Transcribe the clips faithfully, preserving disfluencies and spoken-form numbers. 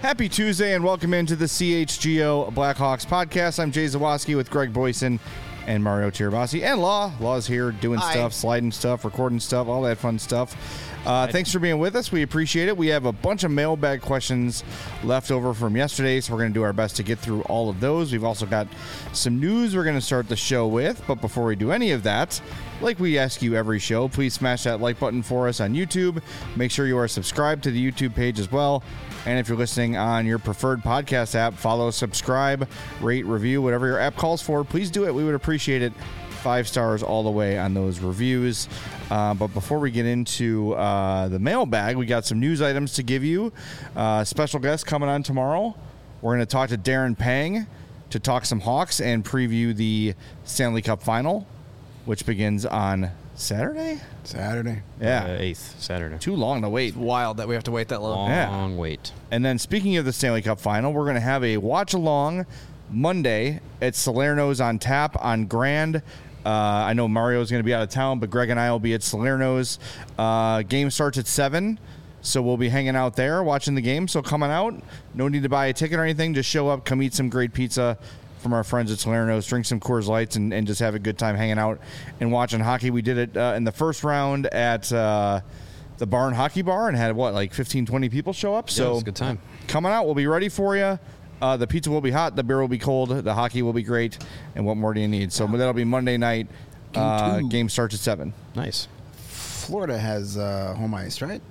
Happy Tuesday and welcome into the C H G O Blackhawks podcast. I'm Jay Zawoski with Greg Boyson and Mario Tirabassi and Law. Law's here doing Hi. stuff, sliding stuff, recording stuff, all that fun stuff. Uh, thanks for being with us. We appreciate it. We have a bunch of mailbag questions left over from yesterday, so we're going to do our best to get through all of those. We've also got some news we're going to start the show with, but before we do any of that, like we ask you every show, please smash that like button for us on YouTube. Make sure you are subscribed to the YouTube page as well. And if you're listening on your preferred podcast app, follow, subscribe, rate, review, whatever your app calls for. Please do it. We would appreciate it. Five stars all the way on those reviews. Uh, but before we get into uh, the mailbag, we got some news items to give you. Uh, special guest coming on tomorrow. We're going to talk to Darren Pang to talk some Hawks and preview the Stanley Cup Final, which begins on Saturday? Saturday. Yeah. Uh, eighth, Saturday. Too long to wait. It's wild that we have to wait that long. Long Yeah. wait. And then speaking of the Stanley Cup Final, we're going to have a watch-along Monday at Salerno's on tap on Grand. Uh, I know Mario's going to be out of town, but Greg and I will be at Salerno's. Uh, game starts at seven, so we'll be hanging out there watching the game. So coming out, no need to buy a ticket or anything. Just show up, come eat some great pizza from our friends at Salerno's, drink some Coors Lights, and, and just have a good time hanging out and watching hockey. We did it uh, in the first round at uh, the Barn Hockey Bar and had, what, like fifteen, twenty people show up? Yeah, So it was a good time. Coming out, we'll be ready for you. Uh, the pizza will be hot, the beer will be cold, the hockey will be great, and what more do you need? So that'll be Monday night. Uh, two. game starts at seven. Nice. Florida has uh, home ice, right?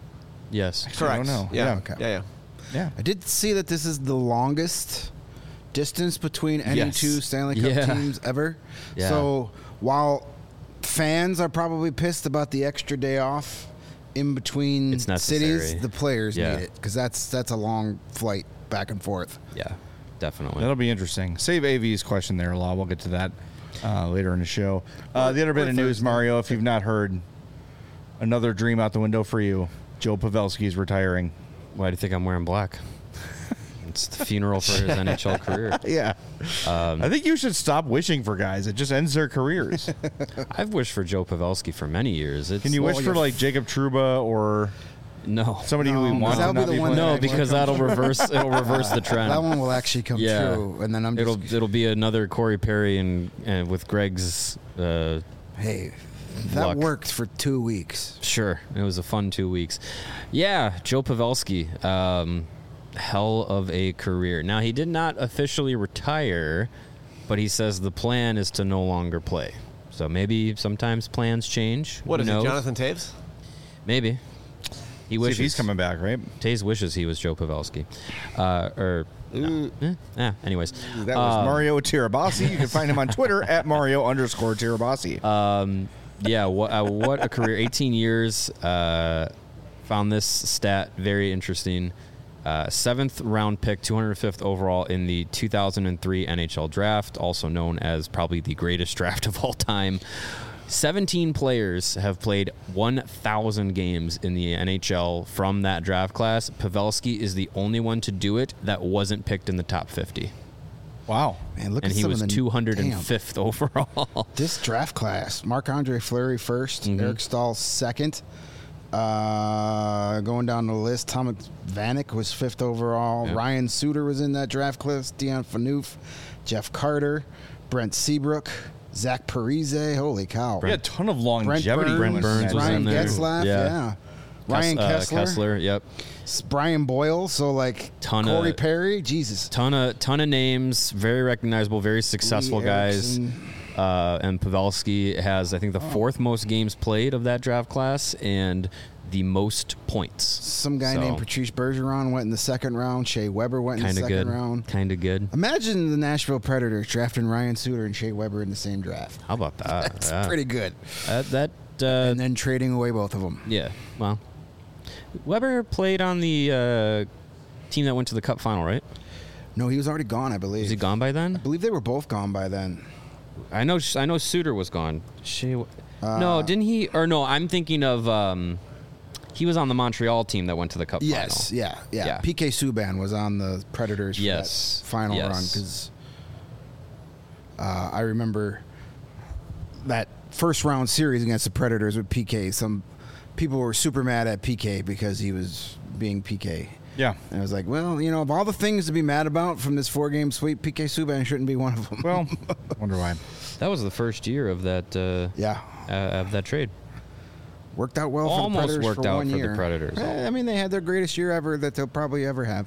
Yes. Correct. I don't know. Yeah. Yeah. Okay. Yeah, yeah. Yeah. I did see that this is the longest distance between any Yes. two Stanley Cup Yeah. teams ever. Yeah. So while fans are probably pissed about the extra day off in between It's necessary. cities, the players Yeah. need it because that's that's a long flight back and forth. Yeah, definitely. That'll be interesting. Save A V's question there, Law. We'll get to that uh, later in the show. Uh, the other bit of news, Mario, if you've not heard, another dream out the window for you. Joe Pavelski's retiring. Why do you think I'm wearing black? It's the funeral for his N H L career. Yeah. Um, I think you should stop wishing for guys. It just ends their careers. I've wished for Joe Pavelski for many years. It's, Can you Well, wish for, you're- like, Jacob Trouba or No. somebody who we No, want that'll to be not the be one playing? that No, actually because comes that'll reverse. It'll reverse the trend. That one will actually come Yeah. true, and then I'm just It'll it'll be another Corey Perry and, and with Greg's. Uh, hey, that luck. worked for two weeks. Sure, it was a fun two weeks. Yeah, Joe Pavelski, um, hell of a career. Now he did not officially retire, but he says the plan is to no longer play. So maybe sometimes plans change. What Who is knows? it, Jonathan Taves? Maybe. He See wishes if he's coming back, right? Taze wishes he was Joe Pavelski. Uh, or no. Eh, eh, anyways, That was Um, Mario Tirabassi. You can find him on Twitter at Mario underscore Tirabassi. Um, yeah, what uh, what a career! eighteen years. Uh, found this stat very interesting. Uh, seventh round pick, two hundred fifth overall in the two thousand three N H L draft, also known as probably the greatest draft of all time. seventeen players have played one thousand games in the N H L from that draft class. Pavelski is the only one to do it that wasn't picked in the top fifty. Wow. Man, look And at he some was of the, two hundred damn. fifth overall. This draft class: Marc-Andre Fleury first, Mhm. Eric Stahl second. Uh, going down the list, Thomas Vanek was fifth overall. Yep. Ryan Suter was in that draft class. Dion Phaneuf, Jeff Carter, Brent Seabrook, Zach Parise. Holy cow! We had a ton of Brent longevity. Burns, Brent Burns was Ryan in there. Getzlaff, Yeah. yeah. Ryan Kes- uh, Kessler, Kessler, yep. S- Brian Boyle. So like Ton Corey of- Perry. Jesus. Ton of ton of names, very recognizable, very successful Lee guys. Erickson. Uh, and Pavelski has, I think, the fourth most games played of that draft class and the most points. Some guy So, named Patrice Bergeron went in the second round. Shea Weber went in the Kind of second good. round. Kind of good. Imagine the Nashville Predators drafting Ryan Suter and Shea Weber in the same draft. How about that? That's Yeah. pretty good. That, that uh, And then trading away both of them. yeah. Well, Weber played on the uh, team that went to the Cup final, right? No, he was already gone, I believe. Was he gone by I then? believe they were both gone by then. I know. I know. Suter was gone. Shea, Uh, no, didn't he? Or no, I'm thinking of. Um, he was on the Montreal team that went to the Cup Yes, final. yeah, yeah, Yeah. P K Subban was on the Predators for Yes, that final yes. run because uh, I remember that first round series against the Predators with P K. Some people were super mad at P K because he was being P K. Yeah. And I was like, well, you know, of all the things to be mad about from this four-game sweep, P K Subban shouldn't be one of them. Well, wonder why. That was the first year of that. Uh, yeah. Uh, of that trade. Worked out well Almost for the Predators worked for out one for year. the Predators. Eh, I mean, they had their greatest year ever that they'll probably ever have.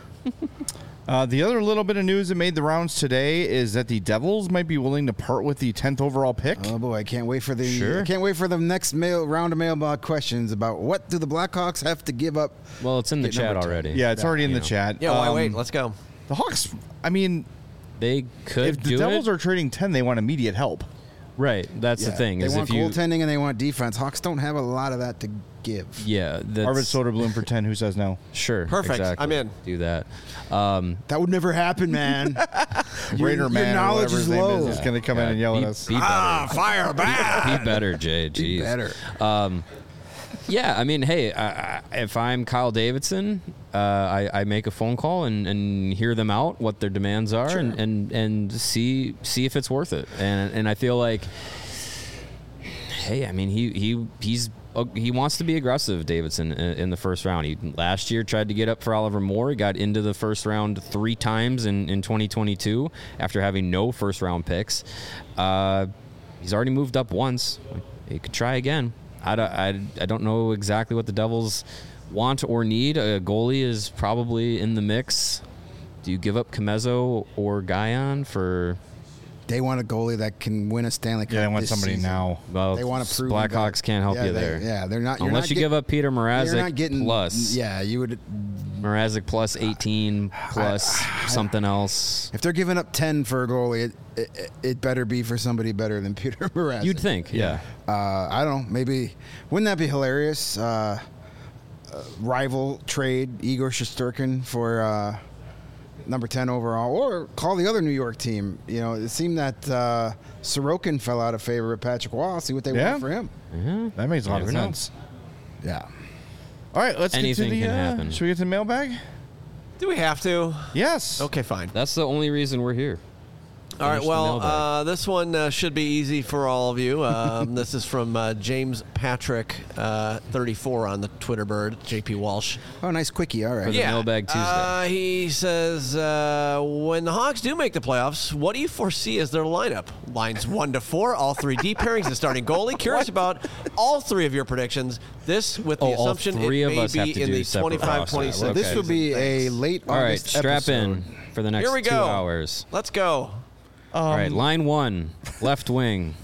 Uh, the other little bit of news that made the rounds today is that the Devils might be willing to part with the tenth overall pick. Oh boy, I can't wait for the Sure. I can't wait for the next mail round of mailbag questions about what do the Blackhawks have to give up. Well, it's in the Get chat number ten. already. Yeah, it's Yeah, already in you the know. chat. Yeah, why Um, wait? Let's go. The Hawks, I mean, They could if the do Devils it. are trading ten, they want immediate help. Right. That's Yeah, the thing. They is want if you, goaltending and they want defense. Hawks don't have a lot of that to give. Yeah. That's, Arvid Soderblom for ten. Who says no? Sure. Perfect. Exactly. I'm in. Do that. Um, That would never happen, man. Your- Raider your Man, or knowledge whatever is his name low. is, is going to come in yeah, and yell be, at us. Be better. Ah, fire back. Be better, Jay. Jeez. Be better. Um, yeah, I mean, hey, I, I, if I'm Kyle Davidson, uh, I, I make a phone call and, and hear them out, what their demands are, Sure. and, and, and see see if it's worth it. And and I feel like, hey, I mean, he he he's uh, he wants to be aggressive, Davidson, in, in the first round. He last year tried to get up for Oliver Moore. He got into the first round three times in, in twenty twenty-two after having no first round picks. Uh, he's already moved up once. He could try again. I don't, I, I don't know exactly what the Devils want or need. A goalie is probably in the mix. Do you give up Comezzo or Guyon for? They want a goalie that can win a Stanley Cup. Yeah, they want this somebody season. now. Well, They want to prove Blackhawks that- can't help yeah, you they- there. Yeah, they're not. You're Unless not you get- give up Peter You're not Mrazek getting plus Yeah, you would. Mrazek plus eighteen plus something else. If they're giving up ten for a goalie, it, it, it better be for somebody better than Peter Mrazek. You'd think, yeah. Uh, I don't know. Maybe wouldn't that be hilarious? Uh, uh, rival trade Igor Shesterkin for uh, number ten overall, or call the other New York team. You know, it seemed that uh, Sorokin fell out of favor with Patrick Waugh. See what they Yeah. want for him. Yeah. That makes a lot of Never know. sense. Yeah. All right, let's Anything get to the. can uh, happen. Should we get to the mailbag? Do we have to? Yes. Okay, fine. That's the only reason we're here. All right, Finish the well, mailbag. uh, this one uh, should be easy for all of you. Um, this is from uh, James Patrick, uh, thirty-four on the Twitter bird, J P Walsh. Oh, nice quickie. All right. For the Mailbag Tuesday. Uh, he says, uh, when the Hawks do make the playoffs, what do you foresee as their lineup? Lines one to four, all three D pairings, the starting goalie. Curious about all three of your predictions. This with the Oh, all assumption three it of may us have be to in do the separate twenty-five rosters. twenty-six. Okay. This would be a Thanks. late All right, August strap episode. in for the next Here we two go. hours. Let's go. All right, line one, left wing.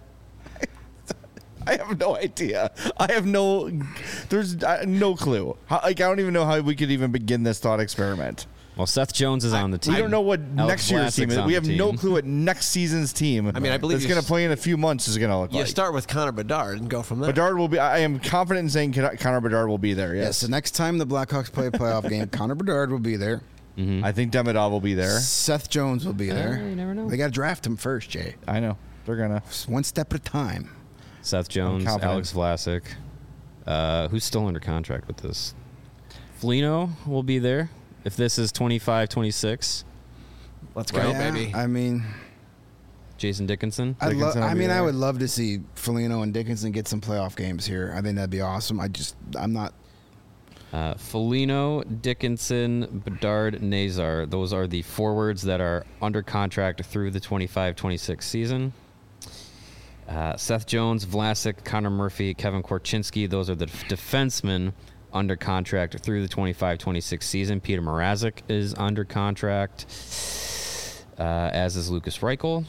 I have no idea. I have no. There's uh, no clue. How, like I don't even know how we could even begin this thought experiment. Well, Seth Jones is on the team. We don't know what Alex next year's team Vlasic's is. on We the have no team. clue what next season's team. I mean, I believe that's you going s- to play in a few months is going to look You like. start with Connor Bedard and go from there. Bedard will be. I am confident in saying Con- Connor Bedard will be there. Yes. Yes, So next time the Blackhawks play a playoff game, Connor Bedard will be there. I think Demidov will be there. Seth Jones will be there. you never know. They got to draft him first, Jay. I know they're gonna. Just one step at a time. Seth Jones, confident. Alex Vlasic, uh, who's still under contract with this. Flino will be there if this is twenty-five twenty-six. Let's go, Yeah, baby. I mean, Jason Dickinson. I'd lo- Dickinson will I be mean, I there. would love to see Foligno and Dickinson get some playoff games here. I think that'd be awesome. I just, I'm not. Uh, Foligno, Dickinson, Bedard, Nazar. Those are the forwards that are under contract through the twenty-five twenty-six season. Uh, Seth Jones, Vlasic, Connor Murphy, Kevin Korchinski. Those are the f- defensemen under contract through the twenty-five twenty-six season. Peter Mrazek is under contract, uh, as is Lucas Reichel.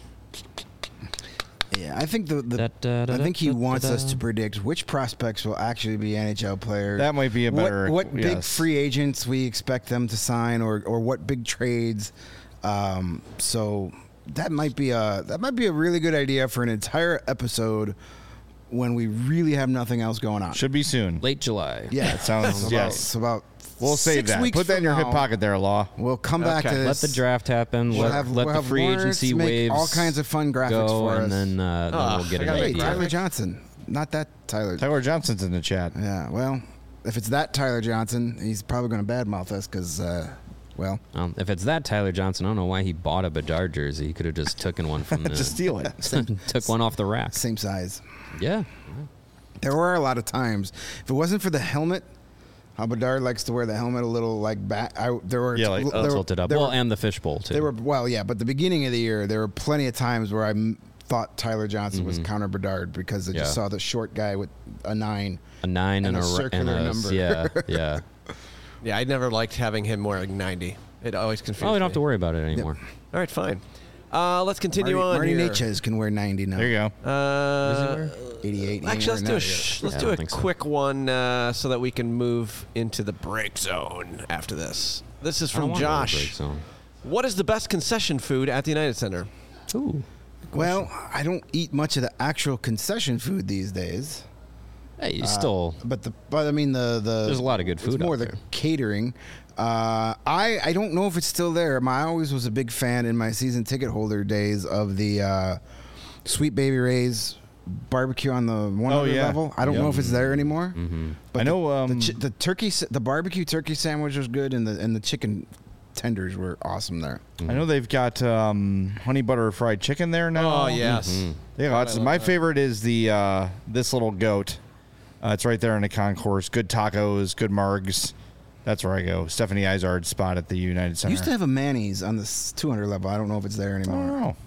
Yeah, I think the, the Da, da, da, I think he da, da, wants da. us to predict which prospects will actually be N H L players. That might be a better. What, what big yes. free agents we expect them to sign, or or what big trades. Um, so that might be a that might be a really good idea for an entire episode when we really have nothing else going on. should be soon. Late July. Yeah, That sounds- It's about- yes. It's about We'll save six that. weeks Put that in from your hip now. pocket there, Law. We'll come back Okay. to Let this. the draft happen. We'll let have- let we'll the have free warrants, agency make waves all kinds of fun graphics go, for us. and then, uh, then Ugh, we'll get I an gotta Hey, make idea. Tyler Johnson, not that Tyler. Tyler Johnson's in the chat. Yeah, well, if it's that Tyler Johnson, he's probably going to badmouth us because, uh, well, Um, if it's that Tyler Johnson, I don't know why he bought a Bedard jersey. He could have just taken one from the Just steal it. took one off the rack. same size. Yeah. There were a lot of times. If it wasn't for the helmet How Bedard likes to wear the helmet a little like back. I, there were Yeah, like, there uh, were- tilted up. there Well, were- and the fishbowl too. They were well, yeah, but the beginning of the year, there were plenty of times where I m- thought Tyler Johnson was counter Bedard because I just Mm-hmm. Yeah. saw the short guy with a nine. a nine and and, a a, ra- circular and a number. yeah, yeah. Yeah, I never liked having him wearing ninety. It always confused Oh, we me. don't have to worry about it anymore. All right, fine. Uh, let's continue Marty, on Marty here. Natchez can wear ninety now. There you go. Uh, eighty-eight. he ain't Actually, let's wearing do a that sh- yet. let's Yeah, I do don't a think so. quick one uh, so that we can move into the break zone after this. This is I don't from want to go to break Josh. zone. What is the best concession food at the United Center? Ooh. Well, I don't eat much of the actual concession food these days. Hey, you still. But the but I mean the the There's a lot of good It's food more out the there. catering. Uh, I I don't know if it's still there. My, I always was a big fan in my season ticket holder days of the uh, Sweet Baby Ray's barbecue on the one hundred Oh, yeah. level. I don't Yep. know if it's there anymore. Mm-hmm. But I know, the, um, the, chi- the turkey s- the barbecue turkey sandwich was good, and the and the chicken tenders were awesome there. I know they've got um, honey butter fried chicken there now. Oh, yes. Mm-hmm. They got lots. I love My that. favorite is the uh, this little goat. Uh, it's right there in the concourse. Good tacos, good margs. That's where I go. Stephanie Izard's spot at the United Center. Used to have a Manny's on the two hundred level. I don't know if it's there I don't anymore. know.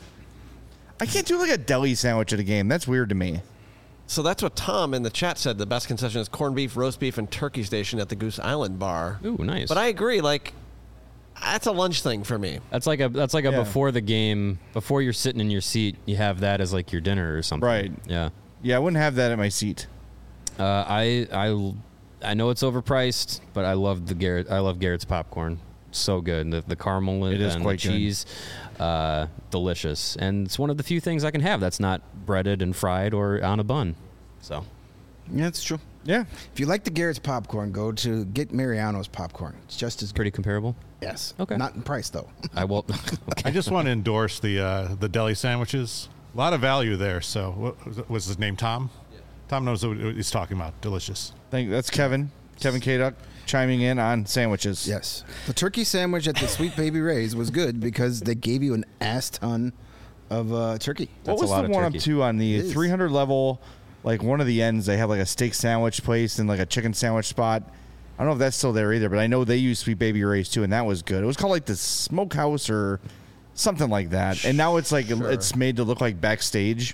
I can't do like a deli sandwich at a game. That's weird to me. So that's what Tom in the chat said. The best concession is corned beef, roast beef, and turkey station at the Goose Island bar. Ooh, nice. But I agree. Like, that's a lunch thing for me. That's like a that's like a Yeah. before the game, before you're sitting in your seat, you have that as like your dinner or something. Right. Yeah. Yeah, I wouldn't have that at my seat. Uh, I I I know it's overpriced, but I love the Garrett. I love Garrett's popcorn. So good. The the caramel It is and quite the good. cheese, uh, delicious. And it's one of the few things I can have that's not breaded and fried or on a bun. So Yeah, it's true. Yeah. If you like the Garrett's popcorn, go to get Mariano's popcorn. It's just as good. pretty comparable. Yes. Okay. Not in price though. I will. I just want to endorse the uh, the deli sandwiches. A lot of value there. So, what was, was his name? Tom. Tom knows what he's talking about. Delicious. Thank, that's Kevin. Kevin K. Duck chiming in on sandwiches. Yes. The turkey sandwich at the Sweet Baby Ray's was good because they gave you an ass ton of uh, turkey. What That's a was lot the of one turkey. up to on the It is. three hundred level? Like one of the ends, they have like a steak sandwich place and like a chicken sandwich spot. I don't know if that's still there either, but I know they use Sweet Baby Ray's too, and that was good. It was called like the Smokehouse or something like that. And now it's like it's made to look like backstage.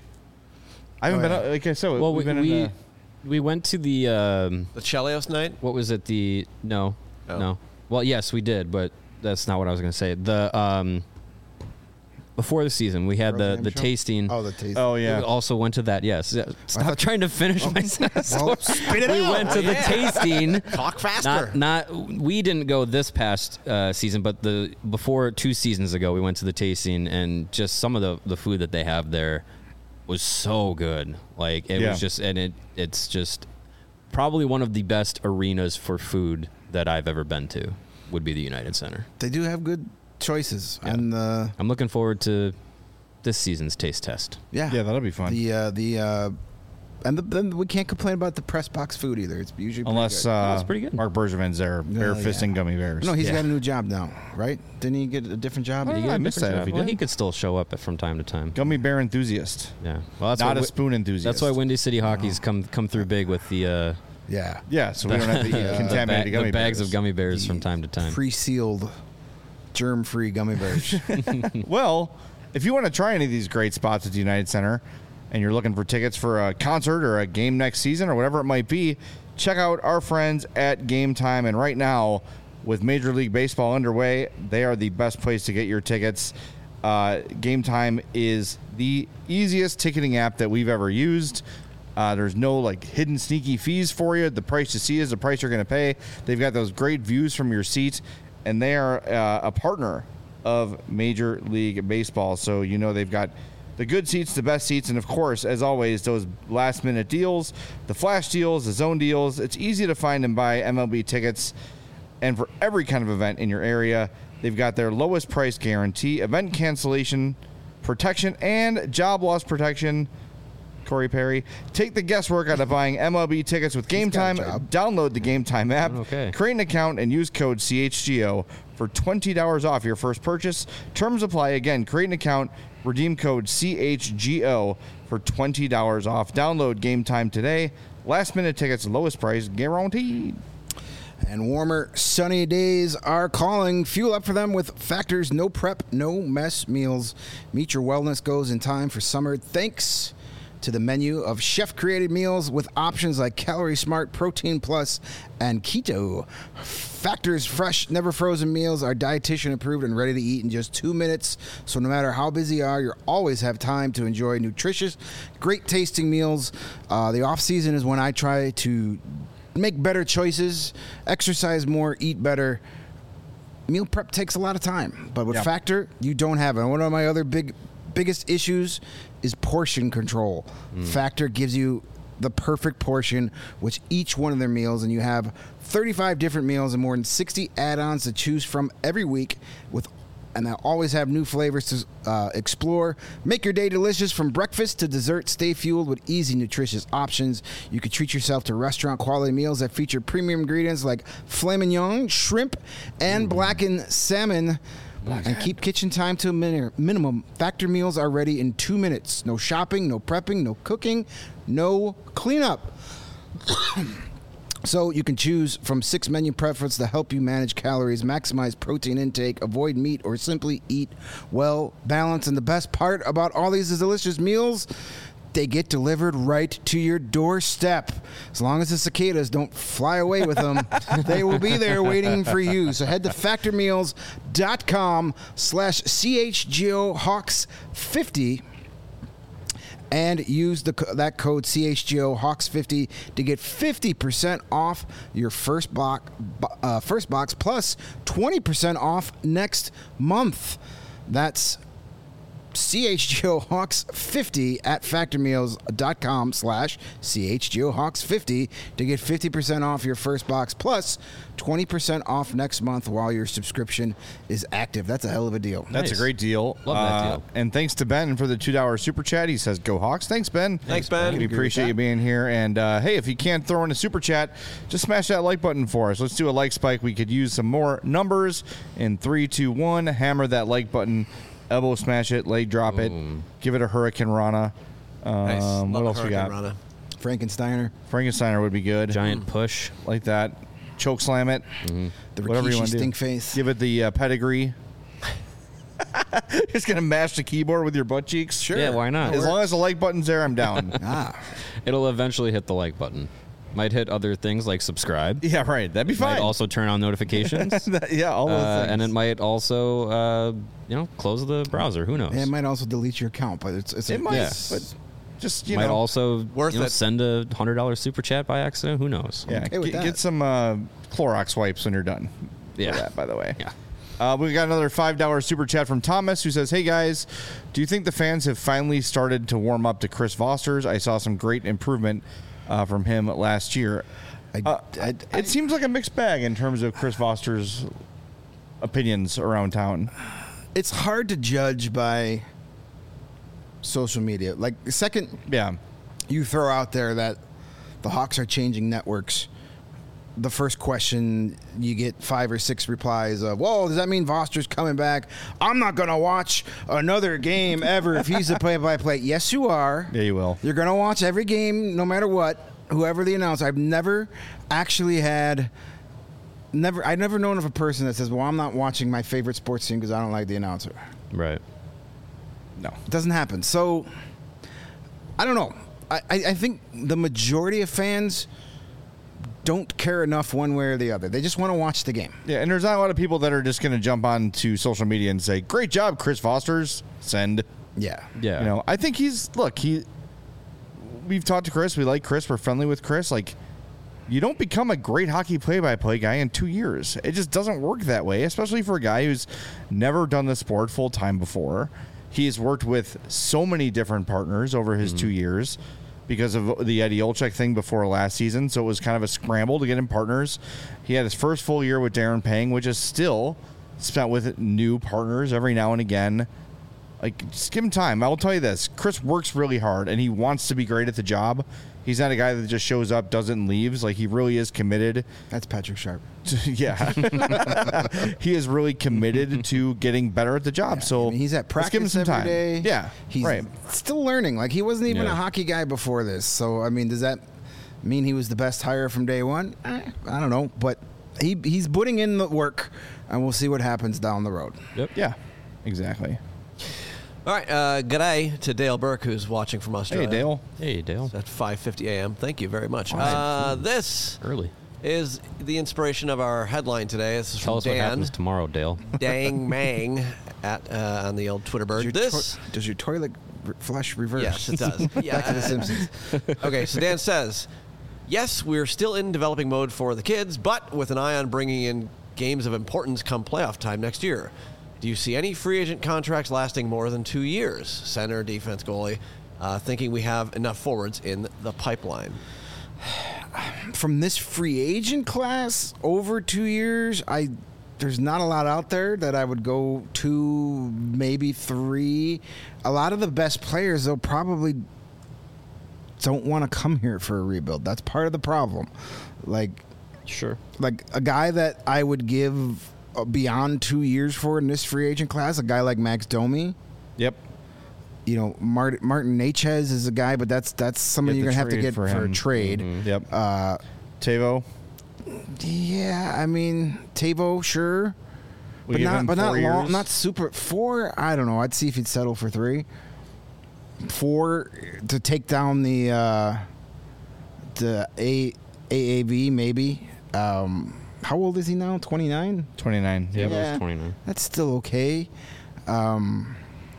I haven't Oh, been yeah. uh, like I said. well, we've we been we, in the, we went to the um, The Chelios night? what was it? The no, Oh. no. Well, yes, we did, but that's not what I was going to say. The um, before the season, we had Earl the Jam the show? tasting. Oh, the taste. oh We yeah. also went to that. Yes. Yeah, Stop thought- trying to finish my sentence. Well, spit it we out. went to the Yeah. tasting. Talk faster. Not, not. We didn't go this past uh, season, but the before two seasons ago, we went to the tasting, and just some of the the food that they have there was so good. Like it Yeah. was just, and it it's just probably one of the best arenas for food that I've ever been to. Would be the United Center. They do have good choices. Yeah. And uh, I'm looking forward to this season's taste test. yeah. Yeah, that'll be fun. The uh, the uh, and the, then we can't complain about the press box food either. It's usually pretty Unless good. uh, that's pretty good. Mark Bergevin's there, bare yeah. fisting gummy bears. no, he's yeah. got a new job now, right? Didn't he get a different job? Oh, Did he get I a missed different that job? if he well, did. he could still show up from time to time. Gummy bear enthusiast, Yeah. Well, that's not why a we- spoon enthusiast. That's why Windy City Hockey's come come through big with the uh, Yeah. Yeah, so we don't have to eat the, contaminated ba- gummy the bags bears. of gummy bears from time to time. Pre-sealed, germ-free gummy bears. Well, if you want to try any of these great spots at the United Center and you're looking for tickets for a concert or a game next season or whatever it might be, check out our friends at Game Time. And right now, with Major League Baseball underway, they are the best place to get your tickets. Uh, Game Time is the easiest ticketing app that we've ever used. Uh, there's no like hidden sneaky fees for you. The price you see is the price you're going to pay. They've got those great views from your seat, and they are uh, a partner of Major League Baseball. So you know they've got the good seats, the best seats, and of course, as always, those last minute deals, the flash deals, the zone deals. It's easy to find and buy M L B tickets. And for every kind of event in your area, they've got their lowest price guarantee, event cancellation protection, and job loss protection. Corey Perry. Take the guesswork out of buying M L B tickets with Game got Time. a job. Download the Game Time app. Okay. Create an account and use code C H G O for twenty dollars off your first purchase. Terms apply. Again, create an account. Redeem code C H G O for twenty dollars off. Download Game Time today. Last minute tickets, lowest price guaranteed. And warmer, sunny days are calling. Fuel up for them with Factor's no prep, no mess meals. Meet your wellness goals in time for summer. Thanks to the menu of chef-created meals with options like Calorie Smart, Protein Plus, and Keto. Factor's fresh, never frozen meals are dietitian approved and ready to eat in just two minutes. So no matter how busy you are, you always have time to enjoy nutritious, great tasting meals. Uh, the off season is when I try to make better choices, exercise more, eat better. Meal prep takes a lot of time, but with Yep. Factor, you don't have it. And one of my other big, biggest issues is portion control. Factor gives you the perfect portion with each one of their meals, and you have thirty-five different meals and more than sixty add-ons to choose from every week with and they'll always have new flavors to uh, explore. Make your day delicious from breakfast to dessert. Stay fueled with easy, nutritious options. You can treat yourself to restaurant-quality meals that feature premium ingredients like filet mignon, shrimp, and blackened salmon. And keep kitchen time to a min- minimum. Factor meals are ready in two minutes. No shopping, no prepping, no cooking, no cleanup. So you can choose from six menu preferences to help you manage calories, maximize protein intake, avoid meat, or simply eat well balanced. And the best part about all these delicious meals, they get delivered right to your doorstep. As long as the cicadas don't fly away with them, they will be there waiting for you. So head to factormeals.com slash CHGO Hawks 50 and use the that code C H G O Hawks fifty to get fifty percent off your first box, uh, first box plus twenty percent off next month. That's C H G O Hawks fifty at factormeals.com slash CHGO Hawks 50 to get fifty percent off your first box plus twenty percent off next month while your subscription is active. That's a hell of a deal. That's Nice. a great deal. Love that Uh, deal. And thanks to Ben for the two dollar super chat. He says, "Go Hawks." Thanks, Ben. Thanks, Ben. We Agree with appreciate that. you being here. And uh, hey, if you can't throw in a super chat, just smash that like button for us. Let's do a like spike. We could use some more numbers. In three, two, one, hammer that like button. Elbow smash it, leg drop it, give it a Hurricane Rana. Um, Nice. What Love else we Hurricane got? Rana. Frankensteiner, Frankensteiner would be good. Giant push. Like that. Choke slam it. the Whatever you Rikishi want to do. stink face. Give it the uh, pedigree. Just going to mash the keyboard with your butt cheeks? Sure. Yeah, why not? As long as the like button's there, I'm down. Ah, It'll eventually hit the like button. Might hit other things like subscribe. Yeah, right. That'd be Might fine. also turn on notifications. That- yeah, all those Uh, things. and it might also, uh, you know, close the browser. Who knows? it might also delete your account, but it's it's It a, might, Yeah. but just, you might know. also Worth you know, it. send a hundred dollar super chat by accident. Who knows? yeah, okay with get, that. get some uh, Clorox wipes when you're done. Yeah. For that, by the way. Yeah. Uh, we got another five dollar super chat from Thomas who says, "Hey guys, do you think the fans have finally started to warm up to Chris Foster's? I saw some great improvement uh, from him last year." I, Uh, I, I, it seems like a mixed bag in terms of Chris Foster's opinions around town. it's hard to judge by social media. Like the second Yeah. you throw out there that the Hawks are changing networks, the first question you get five or six replies of, "Whoa, does that mean Foster's coming back? I'm not going to watch another game ever if he's the play-by-play." Yes, you are. Yeah, you will. You're going to watch every game no matter what, whoever the announcer. I've never actually had never I've never known of a person that says, "Well, I'm not watching my favorite sports team because I don't like the announcer." Right. No. It doesn't happen. So I don't know. I, I, I think the majority of fans don't care enough one way or the other. They just want to watch the game. Yeah, and there's not a lot of people that are just going to jump on to social media and say, "Great job, Chris Foster's." Send. Yeah. Yeah. You know, I think he's look, he we've talked to Chris, we like Chris, we're friendly with Chris. Like, you don't become a great hockey play-by-play guy in two years. It just doesn't work that way, especially for a guy who's never done the sport full time before. He's worked with so many different partners over his two years because of the Eddie Olczyk thing before last season. So it was kind of a scramble to get him partners. He had his first full year with Darren Pang, which is still spent with new partners every now and again. Like, just give him time. I'll tell you this. Chris works really hard, and he wants to be great at the job. He's not a guy that just shows up, does it, and leaves. Like, he really is committed. That's Patrick Sharp. To, yeah. He is really committed to getting better at the job. So I mean, he's at let's give him practice some every time. day. Yeah, He's right. still learning. Like, he wasn't even Yeah. a hockey guy before this. So, I mean, does that mean he was the best hire from day one? Eh, I don't know. But he he's putting in the work, and we'll see what happens down the road. Yep. Yeah, exactly. All right, uh, good day to Dale Burke, who's watching from Australia. Hey, Dale. Hey, Dale. At five fifty a.m. Thank you very much. Uh, this Early. is the inspiration of our headline today. This is Tell from us what Dan happens tomorrow, Dale. Dang Mang at uh, on the old Twitter bird. Does your, This, toi- does your toilet re- flush reverse? yes, it does. Yeah. Back to the Simpsons. Okay, so Dan says, yes, we're still in developing mode for the kids, but with an eye on bringing in games of importance come playoff time next year. Do you see any free agent contracts lasting more than two years? Center, defense, goalie, uh, thinking we have enough forwards in the pipeline. From this free agent class over two years, I there's not a lot out there that I would go two, maybe three. A lot of the best players, though, probably don't want to come here for a rebuild. That's part of the problem. Like, Sure. like a guy that I would give uh, beyond two years for in this free agent class, a guy like Max Domi. Yep. You know, Martin, Martin Nechez is a guy, but that's that's somebody You you're have gonna to have to trade get for for, him. a trade. Yep. Uh, Tavo. yeah, I mean Tavo, sure, We but give not him but not four long, years? not super four. I don't know. I'd see if he'd settle for three, four to take down the uh, the A AAV maybe. Um, how old is he now? twenty-nine. twenty-nine. Yeah, Yep. it Yeah. was twenty-nine. That's still okay. Um,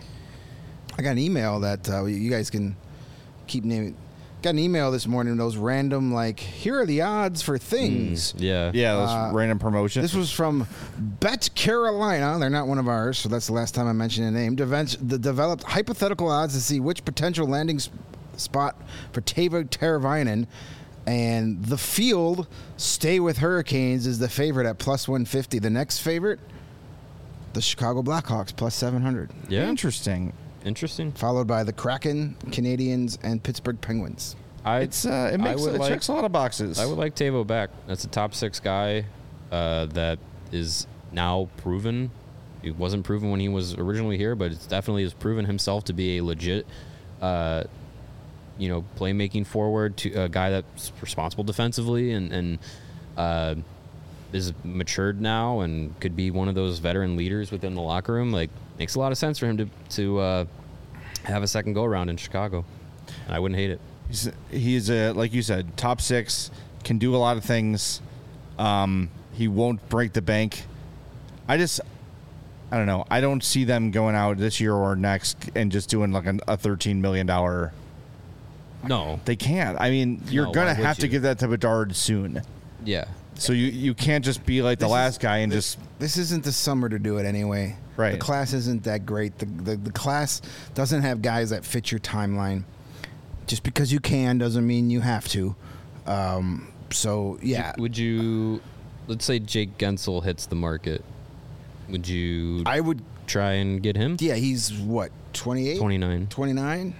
I got an email that uh, you guys can keep naming. Got an email this morning. Those random like, here are the odds for things. Yeah. Yeah, those Uh, random promotions. This was from Bet Carolina. They're not one of ours, so that's the last time I mentioned a name. Deven- the developed hypothetical odds to see which potential landing sp- spot for Tavo Teravainen. And the field, Stay with Hurricanes, is the favorite at plus one fifty. The next favorite, the Chicago Blackhawks, plus seven hundred. Yeah. Interesting. Interesting. Followed by the Kraken, Canadians, and Pittsburgh Penguins. I, It's uh, it I makes would it like, checks a lot of boxes. I would like Tavo back. That's a top six guy uh, that is now proven. He wasn't proven when he was originally here, but it's definitely has proven himself to be a legit, uh, you know, playmaking forward, to a guy that's responsible defensively and and uh, is matured now and could be one of those veteran leaders within the locker room. Like, makes a lot of sense for him to to uh, have a second go around in Chicago. I wouldn't hate it. He's, he's a, like you said, top six, can do a lot of things. Um, he won't break the bank. I just, I don't know. I don't see them going out this year or next and just doing like an, a thirteen million dollars. No. They can't. I mean, you're No, going to why would have to you? give that to Bedard soon. Yeah. So you, you can't just be like the This last is- guy and this, just This isn't the summer to do it anyway. Right. The class isn't that great. The, the the class doesn't have guys that fit your timeline. Just because you can doesn't mean you have to. Um, so yeah, Would you, let's say Jake Gensel hits the market, would you I would. try and get him? Yeah, he's what twenty-eight, twenty-nine. twenty-nine.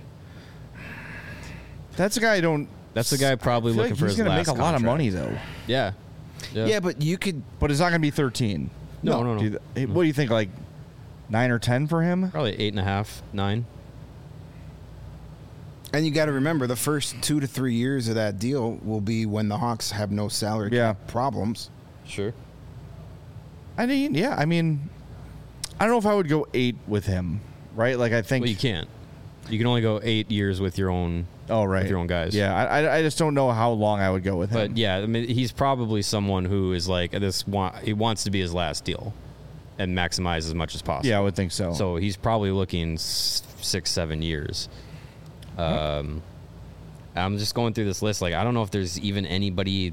that's a guy I don't. That's the guy probably I feel looking like for he's his gonna last make a lot of contract. money though. Yeah. Yeah. Yeah. but you could. But it's not going to be thirteen. No, no, no. Do you th- What do you think? Like nine or ten for him? Probably eight and a half, nine. And you got to remember, the first two to three years of that deal will be when the Hawks have no salary Yeah. cap problems. Sure. I mean, yeah. I mean, I don't know if I would go eight with him. Right? Like I think. Well, you can't. You can only go eight years with your own. Oh, right. With your own guys. Yeah, I, I- I just don't know how long I would go with him. But yeah, I mean, he's probably someone who is like this. Want, he wants to be his last deal, and maximize as much as possible. Yeah, I would think so. So he's probably looking s- six, seven years. Um, I'm just going through this list. Like, I don't know if there's even anybody.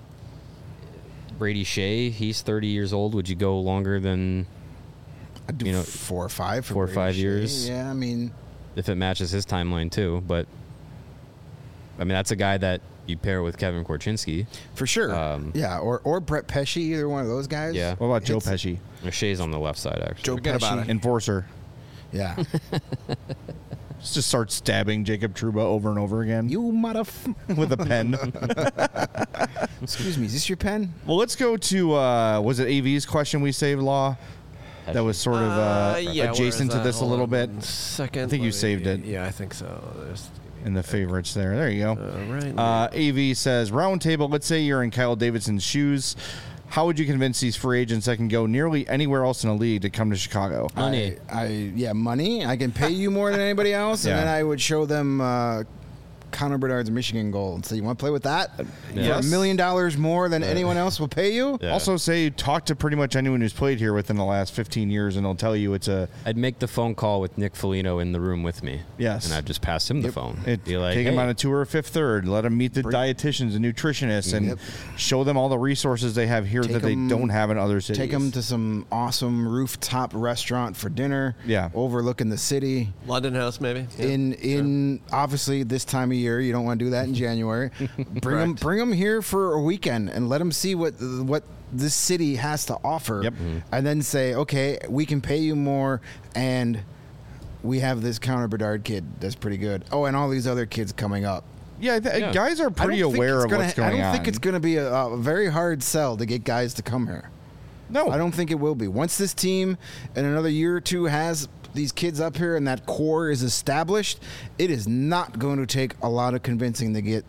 Brady Shea, he's thirty years old. Would you go longer than I'd do You know, four or five for four or Brady five Shea. years? Yeah, I mean, if it matches his timeline too? But I mean, that's a guy that you pair with Kevin Korchinski. for sure. Um, yeah, or or Brett Pesci, either one of those guys. Yeah. what about Joe Hits- Pesci? Shea's on the left side, actually. Joe Forget Pesci. about it. Enforcer. Yeah. Just start stabbing Jacob Trouba over and over again You motherf- with a pen. Excuse me, is this your pen? Well, let's go to uh, was it A V's question we saved, Law? That was sort of uh, yeah, where adjacent is to that? this a Hold little on bit one Second. I think Let you me- saved it. Yeah, I think so. There's, in the favorites there. There you go. All right. Uh, A V says, round table, let's say you're in Kyle Davidson's shoes. how would you convince these free agents that can go nearly anywhere else in the league to come to Chicago? Money. I, I yeah, money. I can pay you more than anybody else, Yeah. and then I would show them uh, Connor Bedard's Michigan goal and say, "You want to play with that for Yes. a million dollars more than anyone else will pay you?" Yeah. Also, say talk to pretty much anyone who's played here within the last fifteen years, and they'll tell you it's a I'd make the phone call with Nick Foligno in the room with me. Yes. And I'd just pass him the phone. It, Be like, take them "Hey." on a tour of Fifth Third. Let them meet the dietitians and nutritionists, and Yep. show them all the resources they have here Take that they 'em- don't have in other cities. Take them to some awesome rooftop restaurant for dinner. Yeah. overlooking the city. London House, maybe. In in obviously this time of year, you don't want to do that in January. Bring them bring them here for a weekend and let them see what what this city has to offer. Yep. And then say, okay, we can pay you more, and we have this Connor Bedard kid that's pretty good. Oh, and all these other kids coming up. yeah, th- Yeah. guys are I pretty don't think aware it's of gonna- what's going on. I don't think it's going to be a, a very hard sell to get guys to come here. no. I don't think it will be. Once this team in another year or two has these kids up here and that core is established, it is not going to take a lot of convincing to get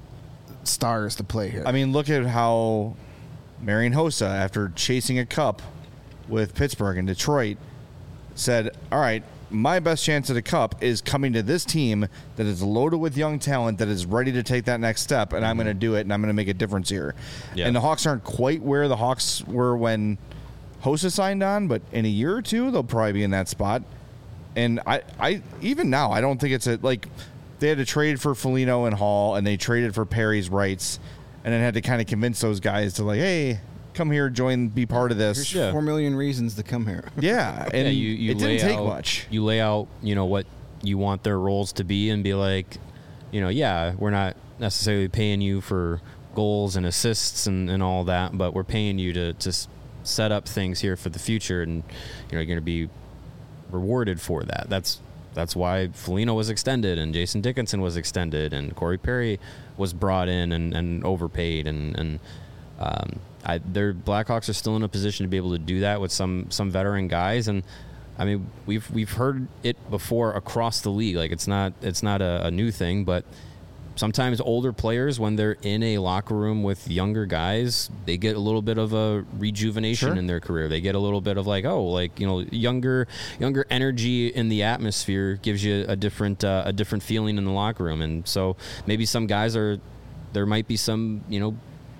stars to play here. I mean, look at how Marian Hossa, after chasing a cup with Pittsburgh and Detroit, said, all right, my best chance at a cup is coming to this team that is loaded with young talent that is ready to take that next step, and I'm going to do it, and I'm going to make a difference here. Yeah. And the Hawks aren't quite where the Hawks were when Hossa signed on, but in a year or two, they'll probably be in that spot. And I, I even now, I don't think it's a, like, they had to trade for Foligno and Hall, and they traded for Perry's rights, and then had to kind of convince those guys to, like, hey, come here, join, be part of this. There's Yeah. four million reasons to come here. Yeah, and Yeah, you, you it lay didn't take out, much. You lay out, you know, what you want their roles to be, and be like, you know, yeah, we're not necessarily paying you for goals and assists and, and all that, but we're paying you to to s- set up things here for the future, and you know, you're going to be rewarded for that. That's that's why Foligno was extended, and Jason Dickinson was extended, and Corey Perry was brought in and, and overpaid, and and um, I, their Blackhawks are still in a position to be able to do that with some some veteran guys, and I mean we've we've heard it before across the league. Like it's not it's not a, a new thing, but sometimes older players, when they're in a locker room with younger guys, they get a little bit of a rejuvenation Sure. in their career. They get a little bit of like, oh, like, you know, younger younger energy in the atmosphere gives you a different uh, a different feeling in the locker room. And so maybe some guys are, there might be some, you know,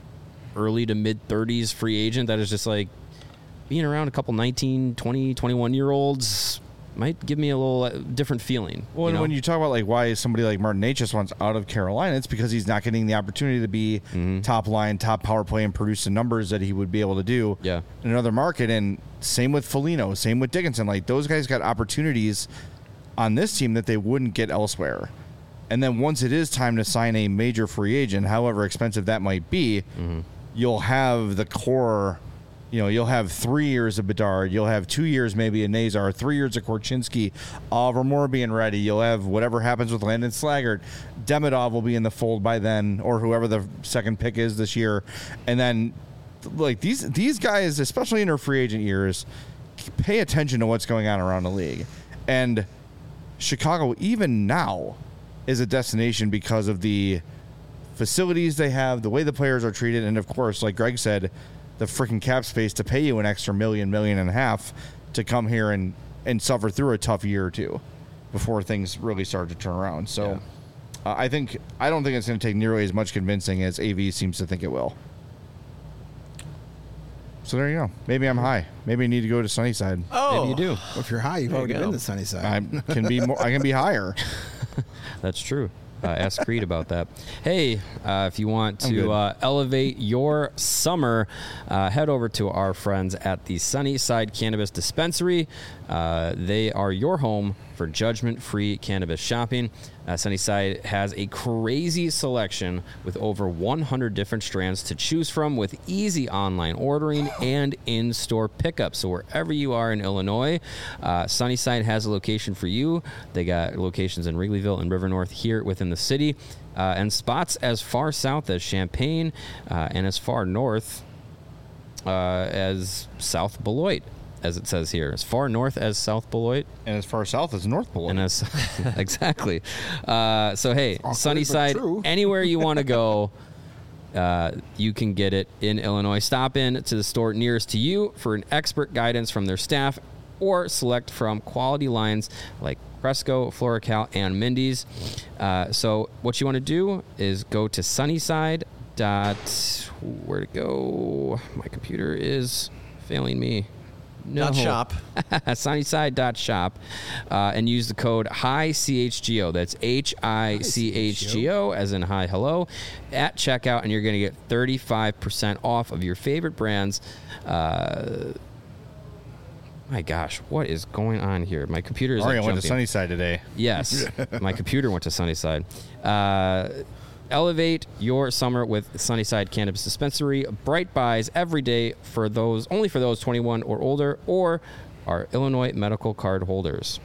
early to mid thirties free agent that is just like being around a couple nineteen, twenty, twenty-one year olds might give me a little uh, different feeling. Well, you know? when you talk about like why somebody like Martin Necas wants out of Carolina, it's because he's not getting the opportunity to be Mm-hmm. top line, top power play, and produce the numbers that he would be able to do Yeah. in another market. And same with Foligno, same with Dickinson. Like those guys got opportunities on this team that they wouldn't get elsewhere. And then once it is time to sign a major free agent, however expensive that might be, Mm-hmm. you'll have the core. You know, you'll have three years of Bedard. You'll have two years maybe of Nazar, three years of Korchinski, Oliver Moore being ready. You'll have whatever happens with Landon Slaggert. Demidov will be in the fold by then, or whoever the second pick is this year. And then, like, these these guys, especially in their free agent years, pay attention to what's going on around the league. And Chicago, even now, is a destination because of the facilities they have, the way the players are treated, and, of course, like Greg said, the freaking cap space to pay you an extra million, million and a half to come here and, and suffer through a tough year or two before things really start to turn around. So uh, I think I don't think it's going to take nearly as much convincing as A V seems to think it will. So there you go. Maybe I'm high. Maybe I need to go to Sunnyside. Oh, Maybe you do. If you're high, you've There you already go. been to Sunnyside. I can be more. I can be higher. That's true. Uh, ask Creed about that. Hey, uh, if you want I'm good. to uh, elevate your summer, uh, head over to our friends at the Sunnyside Cannabis Dispensary. Uh, they are your home for judgment-free cannabis shopping. Uh, Sunnyside has a crazy selection with over one hundred different strands to choose from, with easy online ordering and in-store pickup. So wherever you are in Illinois, uh, Sunnyside has a location for you. They got locations in Wrigleyville and River North here within the city, uh, and spots as far south as Champaign uh, and as far north uh, as South Beloit, as it says here. As far north as South Beloit. And as far south as North Pole. And as exactly. Uh, so hey, Awkward, but Sunnyside, true. anywhere you want to go, Uh, you can get it in Illinois. Stop in to the store nearest to you for an expert guidance from their staff, or select from quality lines like Cresco, Florical, and Mindy's. Uh, so what you want to do is go to Sunnyside. Dot, where to go? My computer is failing me. No. Dot shop. Sunnyside dot shop, uh, and use the code Hi C H G O. That's H I C H G O, as in hi hello, at checkout, and you're going to get thirty-five percent off of your favorite brands. Uh, my gosh, what is going on here? My computer is. Mario like went to jumping. Sunnyside today. Yes, my computer went to Sunnyside. Uh, elevate your summer with Sunnyside Cannabis Dispensary. Bright buys every day for those, only for those twenty-one or older, or our Illinois medical card holders.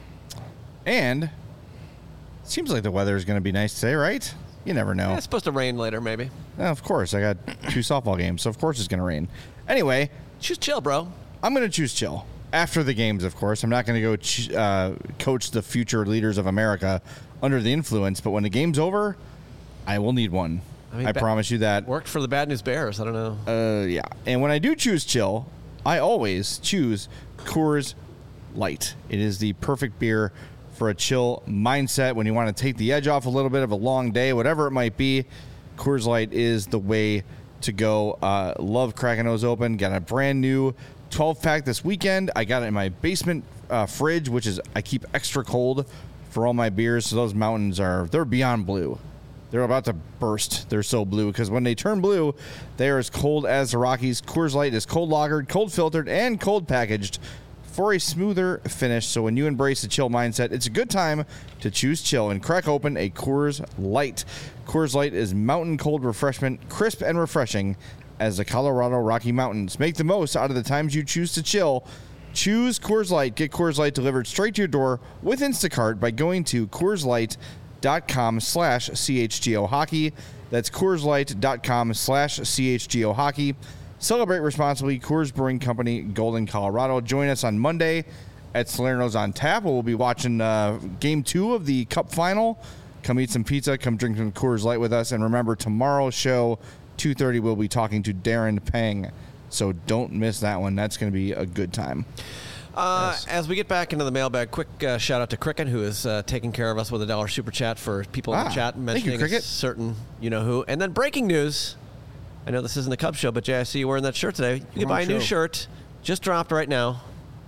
And it seems like the weather is going to be nice today, right? You never know. Yeah, it's supposed to rain later, maybe. Yeah, of course. I got two softball games, so of course it's going to rain. Anyway, Just chill, bro. I'm going to choose chill. After the games, of course. I'm not going to go ch- uh, coach the future leaders of America under the influence, but when the game's over, I will need one. I, mean, I ba- promise you that. Worked for the Bad News Bears. I don't know. Uh, yeah. And when I do choose chill, I always choose Coors Light. It is the perfect beer for a chill mindset when you want to take the edge off a little bit of a long day, whatever it might be. Coors Light is the way to go. Uh, love cracking those open. Got a brand new twelve pack this weekend. I got it in my basement uh, fridge, which is I keep extra cold for all my beers. So those mountains are, they're beyond blue. They're about to burst. They're so blue because when they turn blue, they are as cold as the Rockies. Coors Light is cold lagered, cold filtered, and cold packaged for a smoother finish. So when you embrace the chill mindset, it's a good time to choose chill and crack open a Coors Light. Coors Light is mountain cold refreshment, crisp and refreshing as the Colorado Rocky Mountains. Make the most out of the times you choose to chill. Choose Coors Light. Get Coors Light delivered straight to your door with Instacart by going to Coors Light. Dot com slash CHGO hockey. That's CoorsLight.com slash CHGO hockey. Celebrate responsibly. Coors Brewing Company, Golden, Colorado. Join us on Monday at Salerno's on Tap. We'll be watching uh, game two of the Cup Final. Come eat some pizza. Come drink some Coors Light with us. And remember, tomorrow's show, two thirty, we'll be talking to Darren Pang. So don't miss that one. That's going to be a good time. Uh, Yes. As we get back into the mailbag, quick uh, shout out to Cricket, who is uh, taking care of us with a dollar super chat for people in Ah, the chat thank you, mentioning a Cricket. certain you know who. And then breaking news. I know this isn't the Cubs show, but Jay, I see you wearing that shirt today. You can Wrong buy a new show. shirt. Just dropped right now.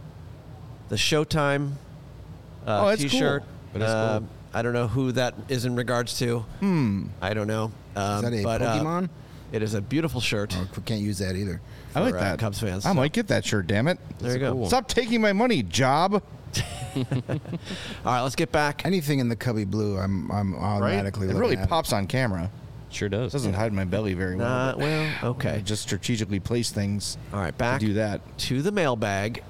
The Showtime uh, Oh, that's T-shirt. cool. That is Uh, cool. I don't know who that is in regards to. Hmm. I don't know. Um, Is that a but, uh, Pokemon? it is a beautiful shirt. Oh, we can't use that either. I like for, uh, that. Cubs fans. I might get that shirt, damn it. There you go. cool. Stop taking my money, job. All right, let's get back. Anything in the Cubby blue, I'm I'm Right? automatically It looking really at. pops on camera. Sure does. Doesn't hide my belly very well. Uh, but well, I okay. just strategically place things All right, to back do that. to the mailbag.